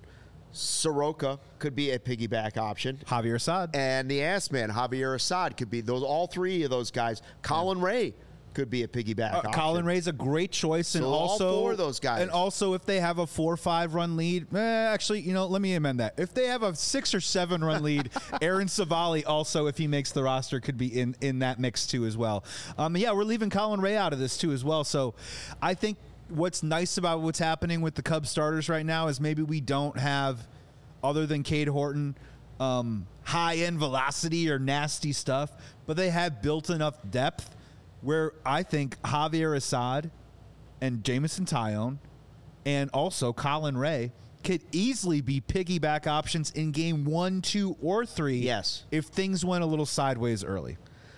Soroka could be a piggyback option. Javier Assad. And the ass man, Javier Assad, could be those. All three of those guys. Colin Ray could be a piggyback Uh, option. Colin Ray's a great choice, and So all also four of those guys. And also, if they have a four or five run lead, eh, actually, you know, let me amend that. If they have a six or seven run lead, Aaron Savali also, if he makes the roster, could be in in that mix too as well. Um, yeah, we're leaving Colin Ray out of this too as well. So, I think what's nice about what's happening with the Cubs starters right now is maybe we don't have, other than Cade Horton, um, high end velocity or nasty stuff, but they have built enough depth where I think Javier Assad and Jamison Tyone and also Colin Ray could easily be piggyback options in game one, two, or three. Yes. If things went a little sideways early.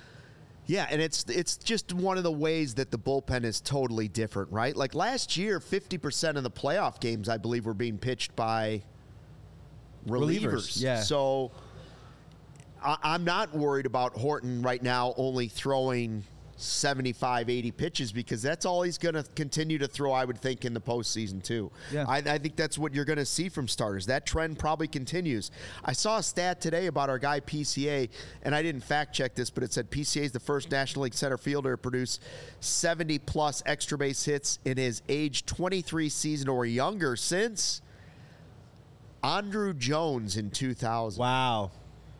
Yeah, and it's it's just one of the ways that the bullpen is totally different, right? Like last year, fifty percent of the playoff games, I believe, were being pitched by relievers. Relievers, yeah. So I, I'm not worried about Horton right now only throwing seventy-five, eighty pitches because that's all he's going to continue to throw, I would think, in the postseason too. Yeah. I, I think that's what you're going to see from starters. That trend probably continues. I saw a stat today about our guy P C A, and I didn't fact check this, but it said P C A is the first National League center fielder to produce seventy plus extra base hits in his age twenty-three season or younger since Andrew Jones in two thousand. Wow.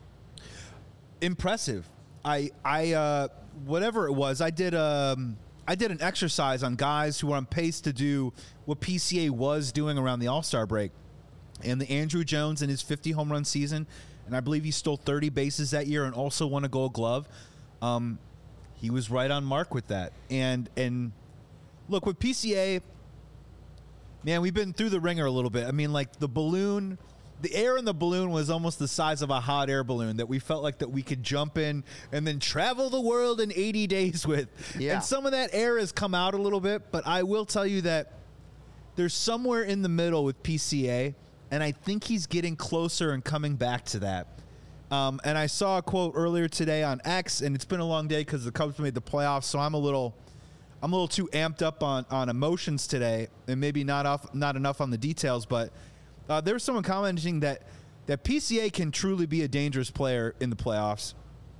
Impressive. I I uh whatever it was, I did um I did an exercise on guys who were on pace to do what P C A was doing around the All-Star break. And the Andrew Jones in his fifty home run season, and I believe he stole thirty bases that year and also won a Gold Glove. Um he was right on mark with that. And and look, with P C A, man, we've been through the ringer a little bit. I mean, like the balloon the air in the balloon was almost the size of a hot air balloon that we felt like that we could jump in and then travel the world in eighty days with. Yeah. And some of that air has come out a little bit, but I will tell you that there's somewhere in the middle with P C A, and I think he's getting closer and coming back to that. Um, and I saw a quote earlier today on X, and it's been a long day because the Cubs made the playoffs, so I'm a little I'm a little too amped up on, on emotions today, and maybe not off, not enough on the details, but Uh, there was someone commenting that, that P C A can truly be a dangerous player in the playoffs.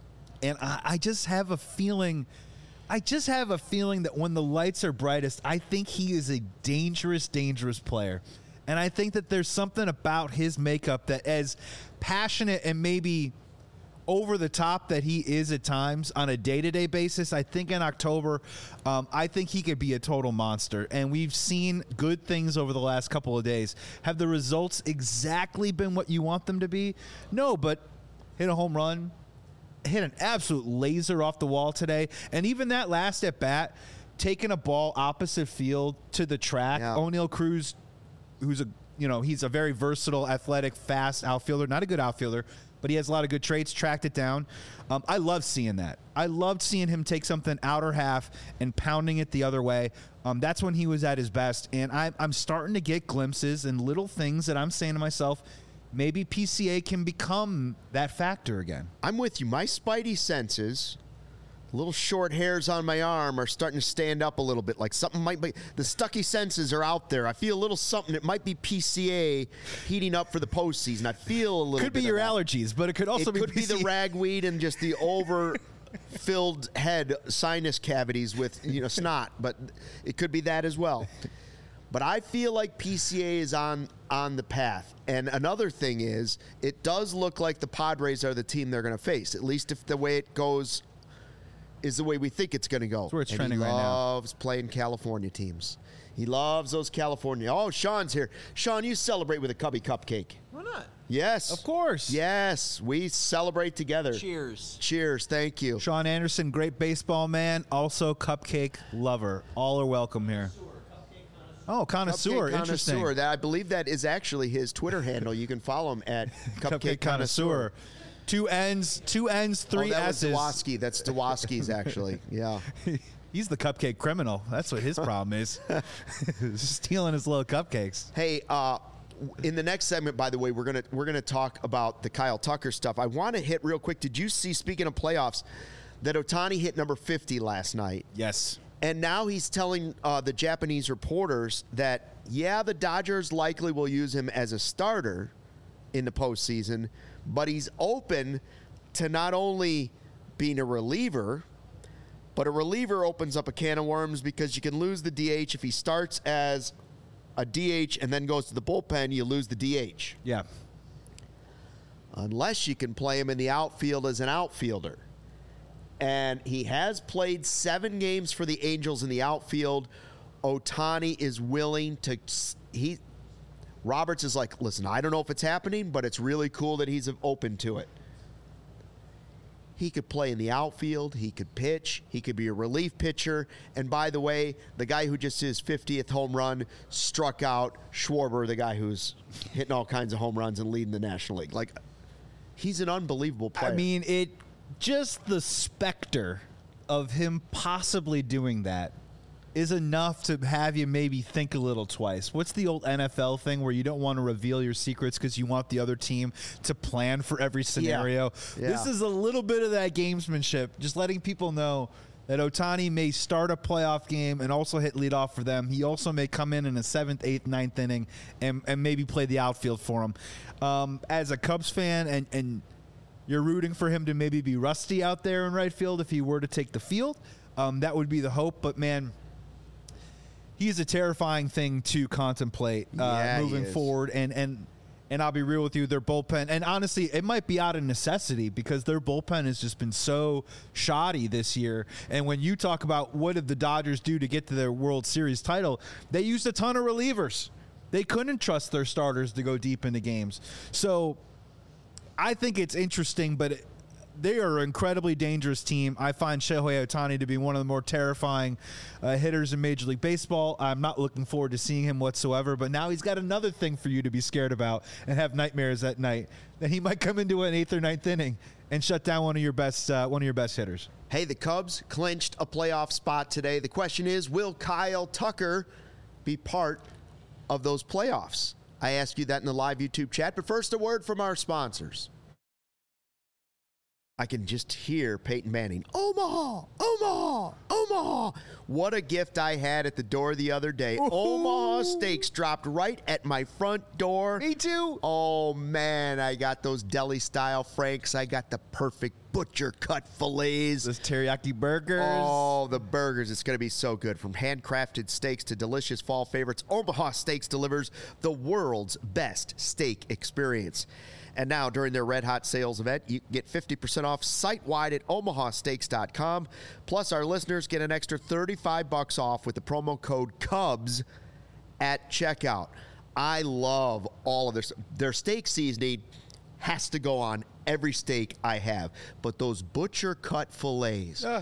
And I, I just have a feeling, I just have a feeling that when the lights are brightest, I think he is a dangerous, dangerous player. And I think that there's something about his makeup that, as passionate and maybe over the top that he is at times on a day-to-day basis, I think in October, um, I think he could be a total monster. And we've seen good things over the last couple of days. Have the results exactly been what you want them to be? No, but hit a home run, hit an absolute laser off the wall today. And even that last at-bat, taking a ball opposite field to the track, Yeah. O'Neal Cruz, who's a, you know, he's a very versatile, athletic, fast outfielder, not a good outfielder, but he has a lot of good traits, tracked it down. Um, I love seeing that. I loved seeing him take something outer half and pounding it the other way. Um, that's when he was at his best. And I, I'm starting to get glimpses and little things that I'm saying to myself, maybe P C A can become that factor again. I'm with you. My spidey senses, little short hairs on my arm, are starting to stand up a little bit. Like something might be, the stucky senses are out there. I feel a little something. It might be P C A heating up for the postseason. I feel a little Could bit be your of that. allergies, but it could also It be could be P C A. the ragweed and just the over-filled head sinus cavities with, you know, snot. But it could be that as well. But I feel like P C A is on on the path. And another thing is, it does look like the Padres are the team they're going to face, at least if the way it goes is the way we think it's going to go. That's where it's and trending he right now. loves playing California teams. He loves those California. Oh, Sean's here. Sean, you celebrate with a Cubby cupcake. Why not? Yes. Of course. Yes, we celebrate together. Cheers. Cheers. Thank you. Sean Anderson, great baseball man, also cupcake lover. All are welcome here. Oh, connoisseur. Cupcake Interesting. Connoisseur. That, I believe that is actually his Twitter handle. You can follow him at Cupcake, Connoisseur. Two N's, two N's, three oh, that S's. was Dwoski. That's Dwoski's actually. Yeah. He's the cupcake criminal. That's what his problem is. Stealing his little cupcakes. Hey, uh, in the next segment, by the way, we're gonna we're gonna talk about the Kyle Tucker stuff. I want to hit real quick. Did you see? Speaking of playoffs, that Ohtani hit number fifty last night, Yes. and now he's telling uh, the Japanese reporters that yeah, the Dodgers likely will use him as a starter in the postseason, but he's open to not only being a reliever, but a reliever opens up a can of worms because you can lose the D H if he starts as a D H and then goes to the bullpen, you lose the D H. Yeah. Unless you can play him in the outfield as an outfielder. And he has played seven games for the Angels in the outfield. Ohtani is willing to he Roberts is like, listen, I don't know if it's happening, but it's really cool that he's open to it. He could play in the outfield. He could pitch. He could be a relief pitcher. And by the way, the guy who just his fiftieth home run struck out Schwarber, the guy who's hitting all kinds of home runs and leading the National League. Like, he's an unbelievable player. I mean, it just the specter of him possibly doing that is enough to have you maybe think a little twice. What's the old N F L thing where you don't want to reveal your secrets because you want the other team to plan for every scenario? Yeah. This is a little bit of that gamesmanship, just letting people know that Ohtani may start a playoff game and also hit leadoff for them. He also may come in in a seventh, eighth, ninth inning and, and maybe play the outfield for him. Um, as a Cubs fan, and, and you're rooting for him to maybe be rusty out there in right field if he were to take the field, um, that would be the hope. But, man, he's a terrifying thing to contemplate uh, Yeah, he moving is. forward. And, and and I'll be real with you, their bullpen, and honestly, it might be out of necessity because their bullpen has just been so shoddy this year. And when you talk about what did the Dodgers do to get to their World Series title, they used a ton of relievers. They couldn't trust their starters to go deep into games. So I think it's interesting, but it, they are an incredibly dangerous team. I find Shohei Ohtani to be one of the more terrifying uh, hitters in Major League Baseball. I'm not looking forward to seeing him whatsoever, but now he's got another thing for you to be scared about and have nightmares at night, that he might come into an eighth or ninth inning and shut down one of your best uh, one of your best hitters. Hey, the Cubs clinched a playoff spot today. The question is, will Kyle Tucker be part of those playoffs? I asked you that in the live YouTube chat, but first a word from our sponsors. I can just hear Peyton Manning, Omaha, Omaha, Omaha. What a gift I had at the door the other day. Ooh. Omaha Steaks dropped right at my front door. Me too. Oh, man, I got those deli-style franks. I got the perfect butcher cut fillets. Those teriyaki burgers. Oh, the burgers. It's going to be so good. From handcrafted steaks to delicious fall favorites, Omaha Steaks delivers the world's best steak experience. And now, during their Red Hot sales event, you can get fifty percent off site-wide at omaha steaks dot com. Plus, our listeners get an extra thirty-five bucks off with the promo code Cubs at checkout. I love all of their their steak seasoning has to go on every steak I have. But those butcher cut fillets, uh.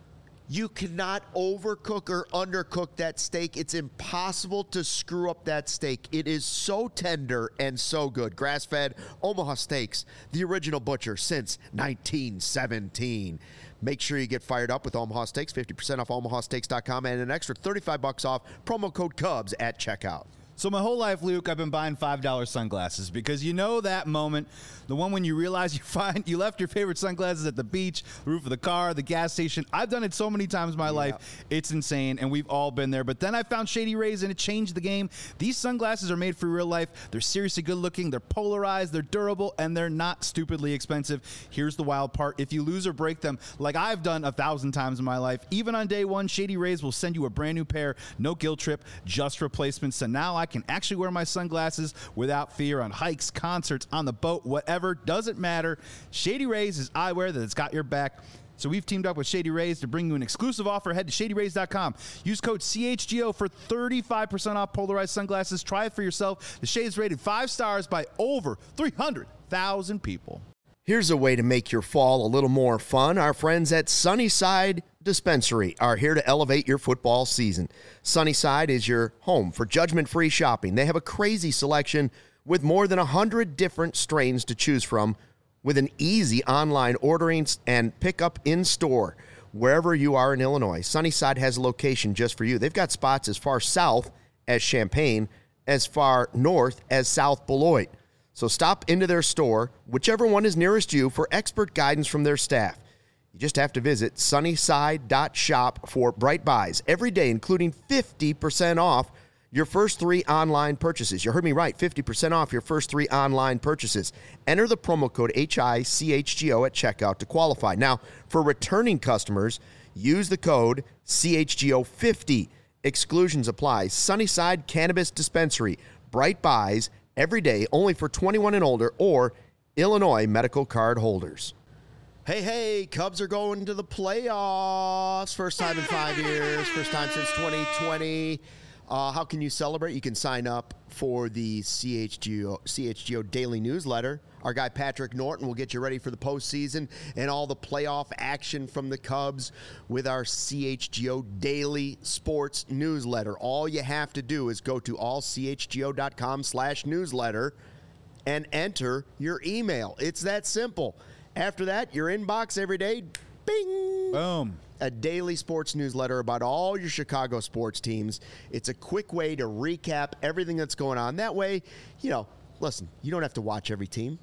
you cannot overcook or undercook that steak. It's impossible to screw up that steak. It is so tender and so good. Grass-fed Omaha Steaks, the original butcher since nineteen seventeen. Make sure you get fired up with Omaha Steaks. fifty percent off omaha steaks dot com and an extra thirty-five bucks off. Promo code Cubs at checkout. So my whole life, Luke, I've been buying five dollar sunglasses because you know that moment, the one when you realize you find you left your favorite sunglasses at the beach, the roof of the car, the gas station. I've done it so many times in my yeah. life. It's insane, and we've all been there. But then I found Shady Rays, and it changed the game. These sunglasses are made for real life. They're seriously good looking. They're polarized. They're durable, and they're not stupidly expensive. Here's the wild part. If you lose or break them, like I've done a thousand times in my life, even on day one, Shady Rays will send you a brand new pair. No guilt trip, just replacements. So now I I can actually wear my sunglasses without fear on hikes, concerts, on the boat, whatever. Doesn't matter. Shady Rays is eyewear that's got your back. So we've teamed up with Shady Rays to bring you an exclusive offer. Head to shady rays dot com. Use code C H G O for thirty-five percent off polarized sunglasses. Try it for yourself. The Shade's rated five stars by over three hundred thousand people. Here's a way to make your fall a little more fun. Our friends at Sunnyside Dispensary are here to elevate your football season. Sunnyside is your home for judgment-free shopping. They have a crazy selection with more than one hundred different strains to choose from, with an easy online ordering and pickup in-store wherever you are in Illinois. Sunnyside has a location just for you. They've got spots as far south as Champaign, as far north as South Beloit. So stop into their store, whichever one is nearest you, for expert guidance from their staff. You just have to visit sunnyside dot shop for bright buys every day, including fifty percent off your first three online purchases. You heard me right, fifty percent off your first three online purchases. Enter the promo code H I C H G O at checkout to qualify. Now, for returning customers, use the code C H G O fifty. Exclusions apply. Sunnyside Cannabis Dispensary. Bright buys every day, only for twenty-one and older or Illinois medical card holders. Hey, hey, Cubs are going to the playoffs. First time in five years, first time since twenty twenty. Uh, how can you celebrate? You can sign up for the C H G O, C H G O Daily Newsletter. Our guy Patrick Norton will get you ready for the postseason and all the playoff action from the Cubs with our C H G O Daily Sports Newsletter. All you have to do is go to all c h g o dot com slash newsletter and enter your email. It's that simple. After that, your inbox every day, bing! Boom. A daily sports newsletter about all your Chicago sports teams. It's a quick way to recap everything that's going on. That way, you know, listen, you don't have to watch every team.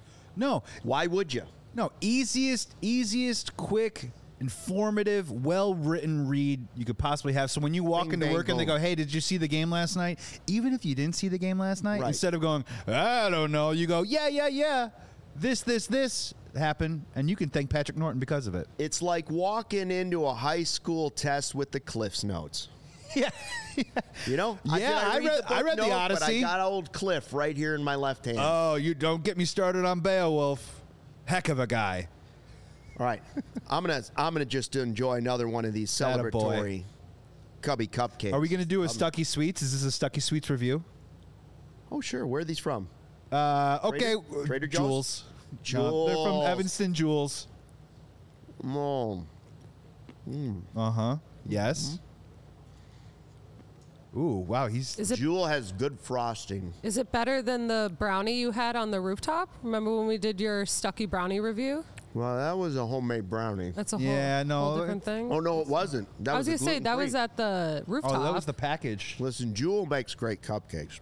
No. Why would you? No. Easiest, easiest, quick, informative, well-written read you could possibly have. So when you walk Bing, into bang, work and they boom. go, hey, did you see the game last night? Even if you didn't see the game last night, Right. instead of going, I don't know, you go, yeah, yeah, yeah, this, this, this happened, and you can thank Patrick Norton because of it. It's like walking into a high school test with the Cliff's Notes. Yeah. You know? Yeah, did I read- book I read The note, Odyssey. But I got old Cliff right here in my left hand. Oh, you don't get me started on Beowulf. Heck of a guy. All right. I'm going to I'm gonna just enjoy another one of these Attaboy. celebratory Cubby cupcakes. Are we going to do a Um, Stucky Sweets? Is this a Stucky Sweets review? Oh, sure. Where are these from? Uh, okay. Trader- Trader Joe's? Jules. No, they're from Jules. Evanston Jules. Oh, Uh huh. Yes. Ooh, wow. He's Is it Jewel has good frosting. is it better than the brownie you had on the rooftop? Remember when we did your Stucky brownie review? Well, that was a homemade brownie. That's a whole, Yeah, no, whole different thing. Oh, no, it wasn't. That I was was gonna say that was gluten-free. at the rooftop. oh, that was the package. Listen, Jewel makes great cupcakes.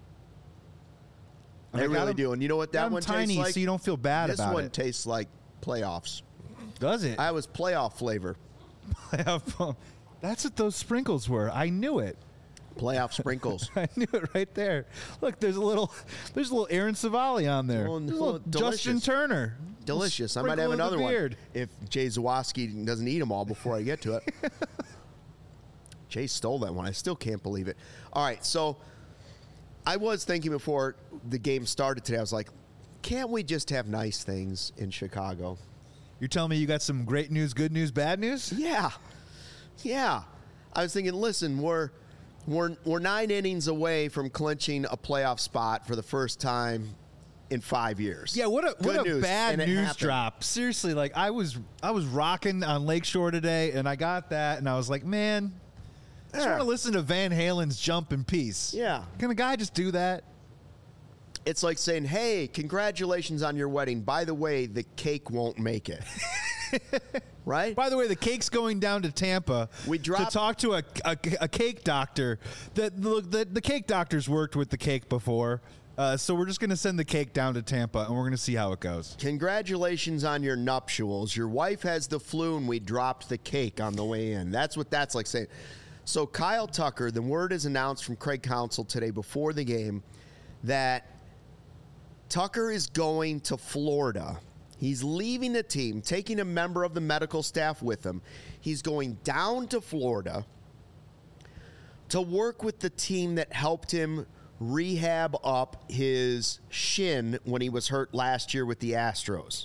And They I got really 'em- do. And you know what that got 'em one tiny, tastes like? so you don't feel bad this about one it. tastes like playoffs. Does it? I was playoff flavor. That's what those sprinkles were. I knew it. Playoff sprinkles. I knew it right there. Look, there's a little, there's a little Aaron Savali on there. Oh, There's a no, little Justin delicious. Turner. Delicious. I might Sprinkle have in the another one beard. if Jay Zawoski doesn't eat them all before I get to it. Jay stole that one. I still can't believe it. All right, so I was thinking before the game started today, I was like, can't we just have nice things in Chicago? You're telling me you got some great news, good news, bad news? Yeah. Yeah. I was thinking, listen, we're we're we're nine innings away from clinching a playoff spot for the first time in five years. Yeah, what a Good what a news, bad and it news happened. drop. Seriously, like I was I was rocking on Lakeshore today, and I got that, and I was like, man, I just Yeah. want to listen to Van Halen's "Jump in Peace." Yeah. Can a guy just do that? It's like saying, hey, congratulations on your wedding. By the way, the cake won't make it. Right? By the way, the cake's going down to Tampa We dropped- to talk to a, a, a cake doctor. That the, the, the cake doctor's worked with the cake before. Uh, so we're just going to send the cake down to Tampa, and we're going to see how it goes. Congratulations on your nuptials. Your wife has the flu, and we dropped the cake on the way in. That's what that's like saying. So Kyle Tucker, the word is announced from Craig Counsell today before the game that Tucker is going to Florida. He's leaving the team, taking a member of the medical staff with him. He's going down to Florida to work with the team that helped him rehab up his shin when he was hurt last year with the Astros.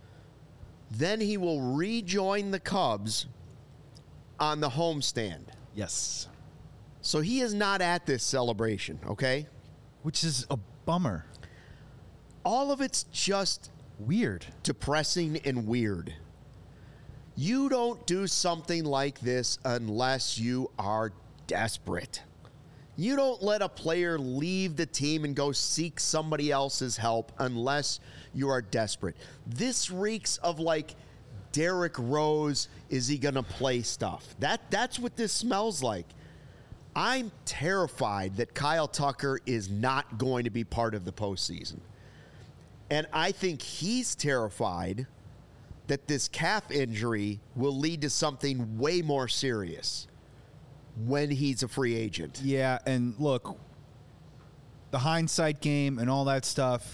Then he will rejoin the Cubs on the homestand. Yes. So he is not at this celebration, okay? Which is a bummer. All of it's just Weird. depressing and weird. You don't do something like this unless you are desperate. You don't let a player leave the team and go seek somebody else's help unless you are desperate. This reeks of like Derrick Rose, is he going to play stuff? That that's what this smells like. I'm terrified that Kyle Tucker is not going to be part of the postseason. And I think he's terrified that this calf injury will lead to something way more serious when he's a free agent. Yeah, and look, the hindsight game and all that stuff,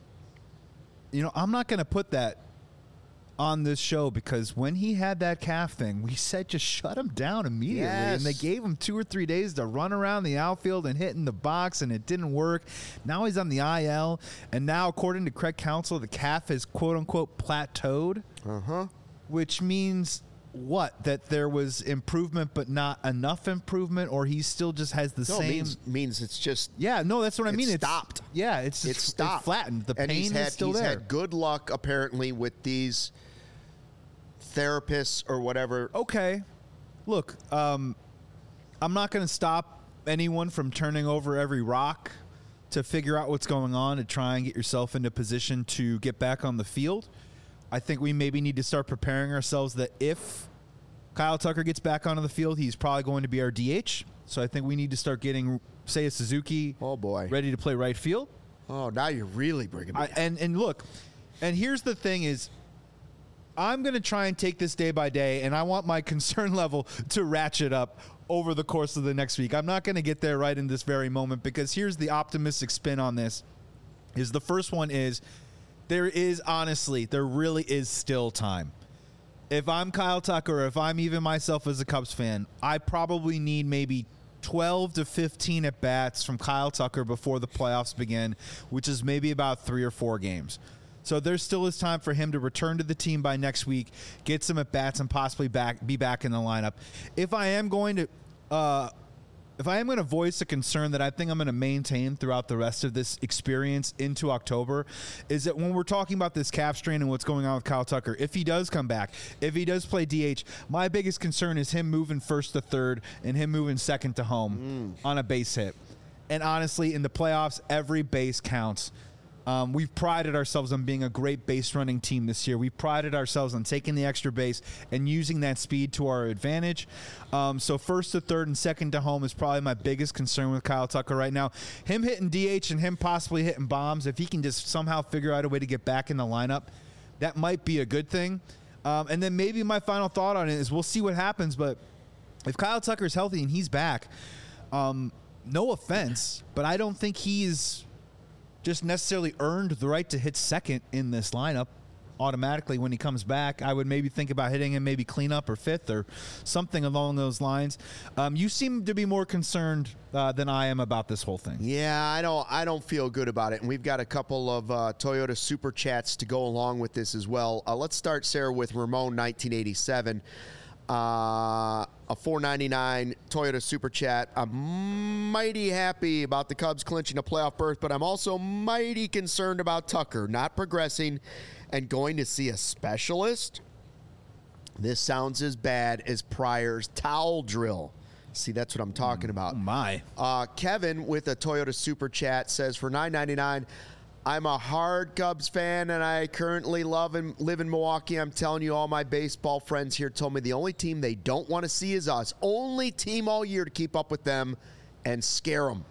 you know, I'm not going to put that on this show because when he had that calf thing, we said just shut him down immediately. Yes. And they gave him two or three days to run around the outfield and hit in the box, and it didn't work. Now he's on the I L, and now, according to Craig Counsell, the calf is quote-unquote plateaued, Uh-huh. which means what? That there was improvement but not enough improvement, or he still just has the No, it same... means, means it's just Yeah, no, that's what I It's mean. stopped. Yeah, it's it's just, stopped. It's flattened. The and pain he's had, is still he's there. had good luck apparently with these therapists or whatever. Okay, look, um, I'm not going to stop anyone from turning over every rock to figure out what's going on to try and get yourself into position to get back on the field. I think we maybe need to start preparing ourselves that if Kyle Tucker gets back onto the field, he's probably going to be our D H. So I think we need to start getting, say, a Suzuki Oh, boy. ready to play right field. Oh, now you're really bringing me I, down. and and look, and here's the thing is, I'm going to try and take this day by day, and I want my concern level to ratchet up over the course of the next week. I'm not going to get there right in this very moment because here's the optimistic spin on this. Is the first one is there is honestly, there really is still time. If I'm Kyle Tucker, or if I'm even myself as a Cubs fan, I probably need maybe twelve to fifteen at bats from Kyle Tucker before the playoffs begin, which is maybe about three or four games. So there still is time for him to return to the team by next week, get some at bats, and possibly back be back in the lineup. If I am going to uh, if I am going to voice a concern that I think I'm going to maintain throughout the rest of this experience into October, is that when we're talking about this calf strain and what's going on with Kyle Tucker, if he does come back, if he does play D H, my biggest concern is him moving first to third and him moving second to home mm. on a base hit. And honestly, in the playoffs, every base counts. Um, we've prided ourselves on being a great base running team this year. We've prided ourselves on taking the extra base and using that speed to our advantage. Um, so first to third and second to home is probably my biggest concern with Kyle Tucker right now. Him hitting D H and him possibly hitting bombs, if he can just somehow figure out a way to get back in the lineup, that might be a good thing. Um, and then maybe my final thought on it is we'll see what happens. But if Kyle Tucker is healthy and he's back, um, no offense, but I don't think he's just necessarily earned the right to hit second in this lineup automatically when he comes back. I would maybe think about hitting him maybe cleanup or fifth or something along those lines. Um, you seem to be more concerned uh, than I am about this whole thing. Yeah, I don't I don't feel good about it. And we've got a couple of uh, Toyota Super Chats to go along with this as well. Uh, let's start, Sarah, with Ramon nineteen eighty-seven. Uh, a four ninety-nine Toyota Super Chat. I'm mighty happy about the Cubs clinching a playoff berth, but I'm also mighty concerned about Tucker not progressing and going to see a specialist. This sounds as bad as Pryor's towel drill. See, that's what I'm talking about. Oh my. Uh, Kevin with a Toyota Super Chat says, for nine ninety-nine, I'm a hard Cubs fan, and I currently love and live in Milwaukee. I'm telling you, all my baseball friends here told me the only team they don't want to see is us. Only team all year to keep up with them and scare them.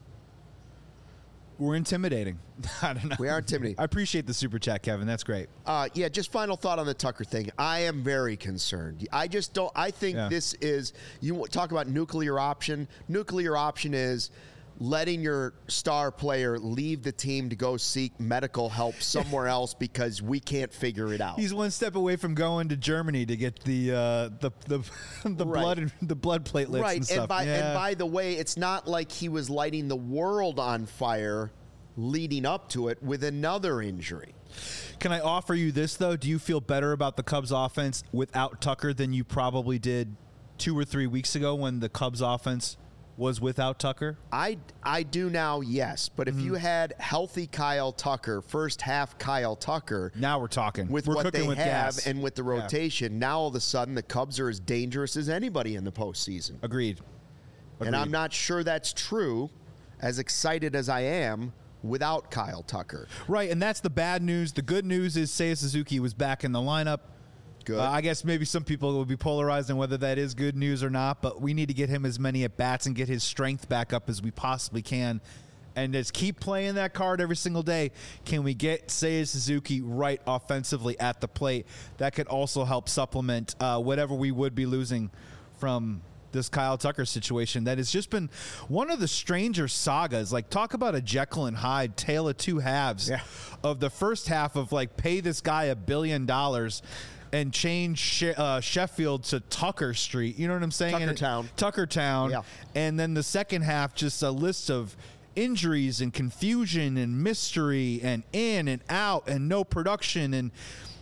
We're intimidating. I don't know. We are intimidating. I appreciate the super chat, Kevin. That's great. Uh, yeah, just final thought on the Tucker thing. I am very concerned. I just don't. I think Yeah. this is, you talk about nuclear option. Nuclear option is letting your star player leave the team to go seek medical help somewhere else because we can't figure it out. He's one step away from going to Germany to get the uh, the the, the Right. blood the blood platelets right, and stuff. and by yeah. and by the way, it's not like he was lighting the world on fire leading up to it with another injury. Can I offer you this though? Do you feel better about the Cubs offense without Tucker than you probably did two or three weeks ago when the Cubs offense was without Tucker? I, I do now, yes. But if Mm-hmm. you had healthy Kyle Tucker, first half Kyle Tucker, Now we're talking. with we're what cooking they with have gas. and with the rotation, now all of a sudden the Cubs are as dangerous as anybody in the postseason. Agreed. Agreed. And I'm not sure that's true, as excited as I am without Kyle Tucker. Right, and that's the bad news. The good news is Seiya Suzuki was back in the lineup. Good. Uh, I guess maybe some people will be polarized on whether that is good news or not, but we need to get him as many at-bats and get his strength back up as we possibly can. And just keep playing that card every single day. Can we get Seiya Suzuki right offensively at the plate? That could also help supplement uh, whatever we would be losing from this Kyle Tucker situation. That has just been one of the stranger sagas. Like, talk about a Jekyll and Hyde tale of two halves. Yeah. Of the first half of, like, pay this guy a billion dollars and change she- uh, Sheffield to Tucker Street. You know what I'm saying? And it- Tuckertown. Tuckertown. Yeah. And then the second half, just a list of injuries and confusion and mystery and in and out and no production and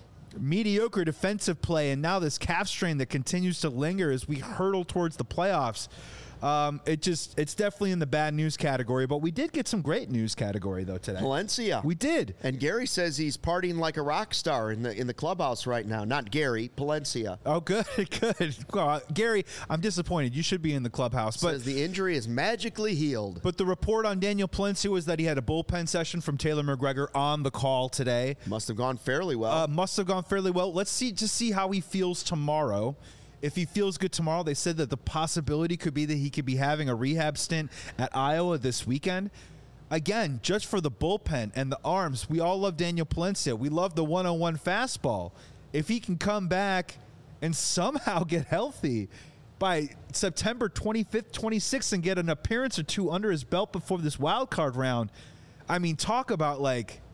mediocre defensive play. And now this calf strain that continues to linger as we hurtle towards the playoffs. Um, it just, it's definitely in the bad news category, but we did get some great news category though today. Palencia. We did. And Gary says he's partying like a rock star in the in the clubhouse right now. Not Gary, Palencia. Oh, good, good. Well, Gary, I'm disappointed. You should be in the clubhouse, but Says the injury is magically healed. But the report on Daniel Palencia was that he had a bullpen session from Taylor McGregor on the call today. Must have gone fairly well. Uh, must have gone fairly well. Let's see, just see how he feels tomorrow. If he feels good tomorrow, they said that the possibility could be that he could be having a rehab stint at Iowa this weekend. Again, just for the bullpen and the arms, we all love Daniel Palencia. We love the one oh one fastball. If he can come back and somehow get healthy by September twenty-fifth, twenty-sixth and get an appearance or two under his belt before this wild card round, I mean, talk about like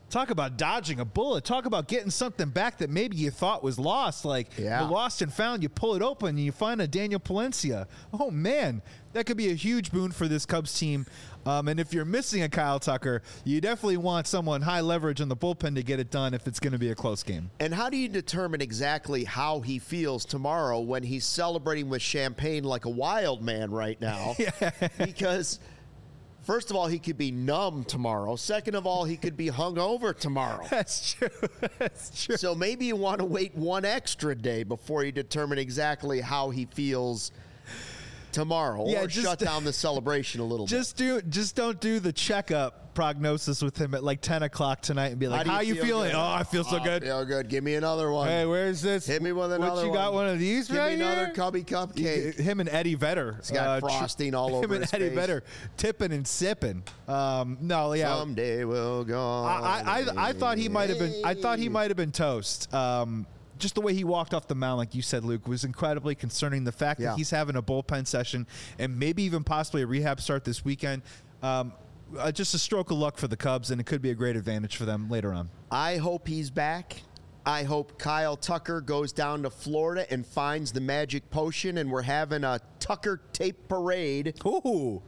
Talk about dodging a bullet. Talk about getting something back that maybe you thought was lost. Like, Yeah. you lost and found, you pull it open, and you find a Daniel Palencia. Oh, man, that could be a huge boon for this Cubs team. Um, and if you're missing a Kyle Tucker, you definitely want someone high leverage in the bullpen to get it done if it's going to be a close game. And how do you determine exactly how he feels tomorrow when he's celebrating with champagne like a wild man right now? Because first of all, he could be numb tomorrow. Second of all, he could be hungover tomorrow. That's true. That's true. So maybe you want to wait one extra day before you determine exactly how he feels tomorrow, Yeah, or just- shut down the celebration a little bit. Just do, just don't do the checkup prognosis with him at like ten o'clock tonight and be like, do "How you you feel feeling? good? Oh, I feel so Oh, good. Feel good. Give me another one. Hey, where's this? Hit me with another What, you got one. one of these Give right me another here? cubby cupcake. Him and Eddie Vedder. He's got tr- frosting all over Him and his Eddie face. Vedder tipping and sipping. Um, no, yeah. Someday we'll go. I, I, I, I thought he might have been. I thought he might have been toast. Um, just the way he walked off the mound, like you said, Luke, was incredibly concerning. The fact Yeah. that he's having a bullpen session and maybe even possibly a rehab start this weekend. Um, uh, just a stroke of luck for the Cubs, and it could be a great advantage for them later on. I hope he's back. I hope Kyle Tucker goes down to Florida and finds the magic potion, and we're having a Tucker tape parade Ooh,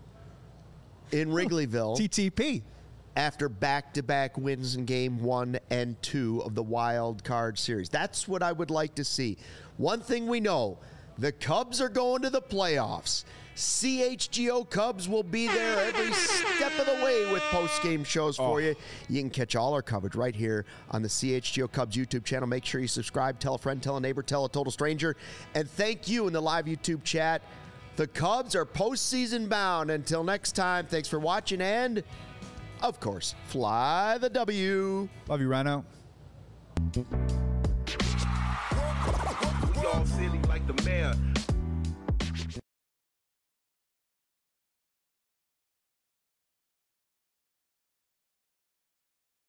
in Wrigleyville T T P. after back-to-back wins in game one and two of the wild card series. That's what I would like to see. One thing we know, the Cubs are going to the playoffs. C H G O Cubs will be there every step of the way with post-game shows for Oh. you. You can catch all our coverage right here on the C H G O Cubs YouTube channel. Make sure you subscribe, tell a friend, tell a neighbor, tell a total stranger. And thank you in the live YouTube chat. The Cubs are postseason bound. Until next time, thanks for watching, and of course, fly the W. Love you, Rhino. Y'all silly like the mayor.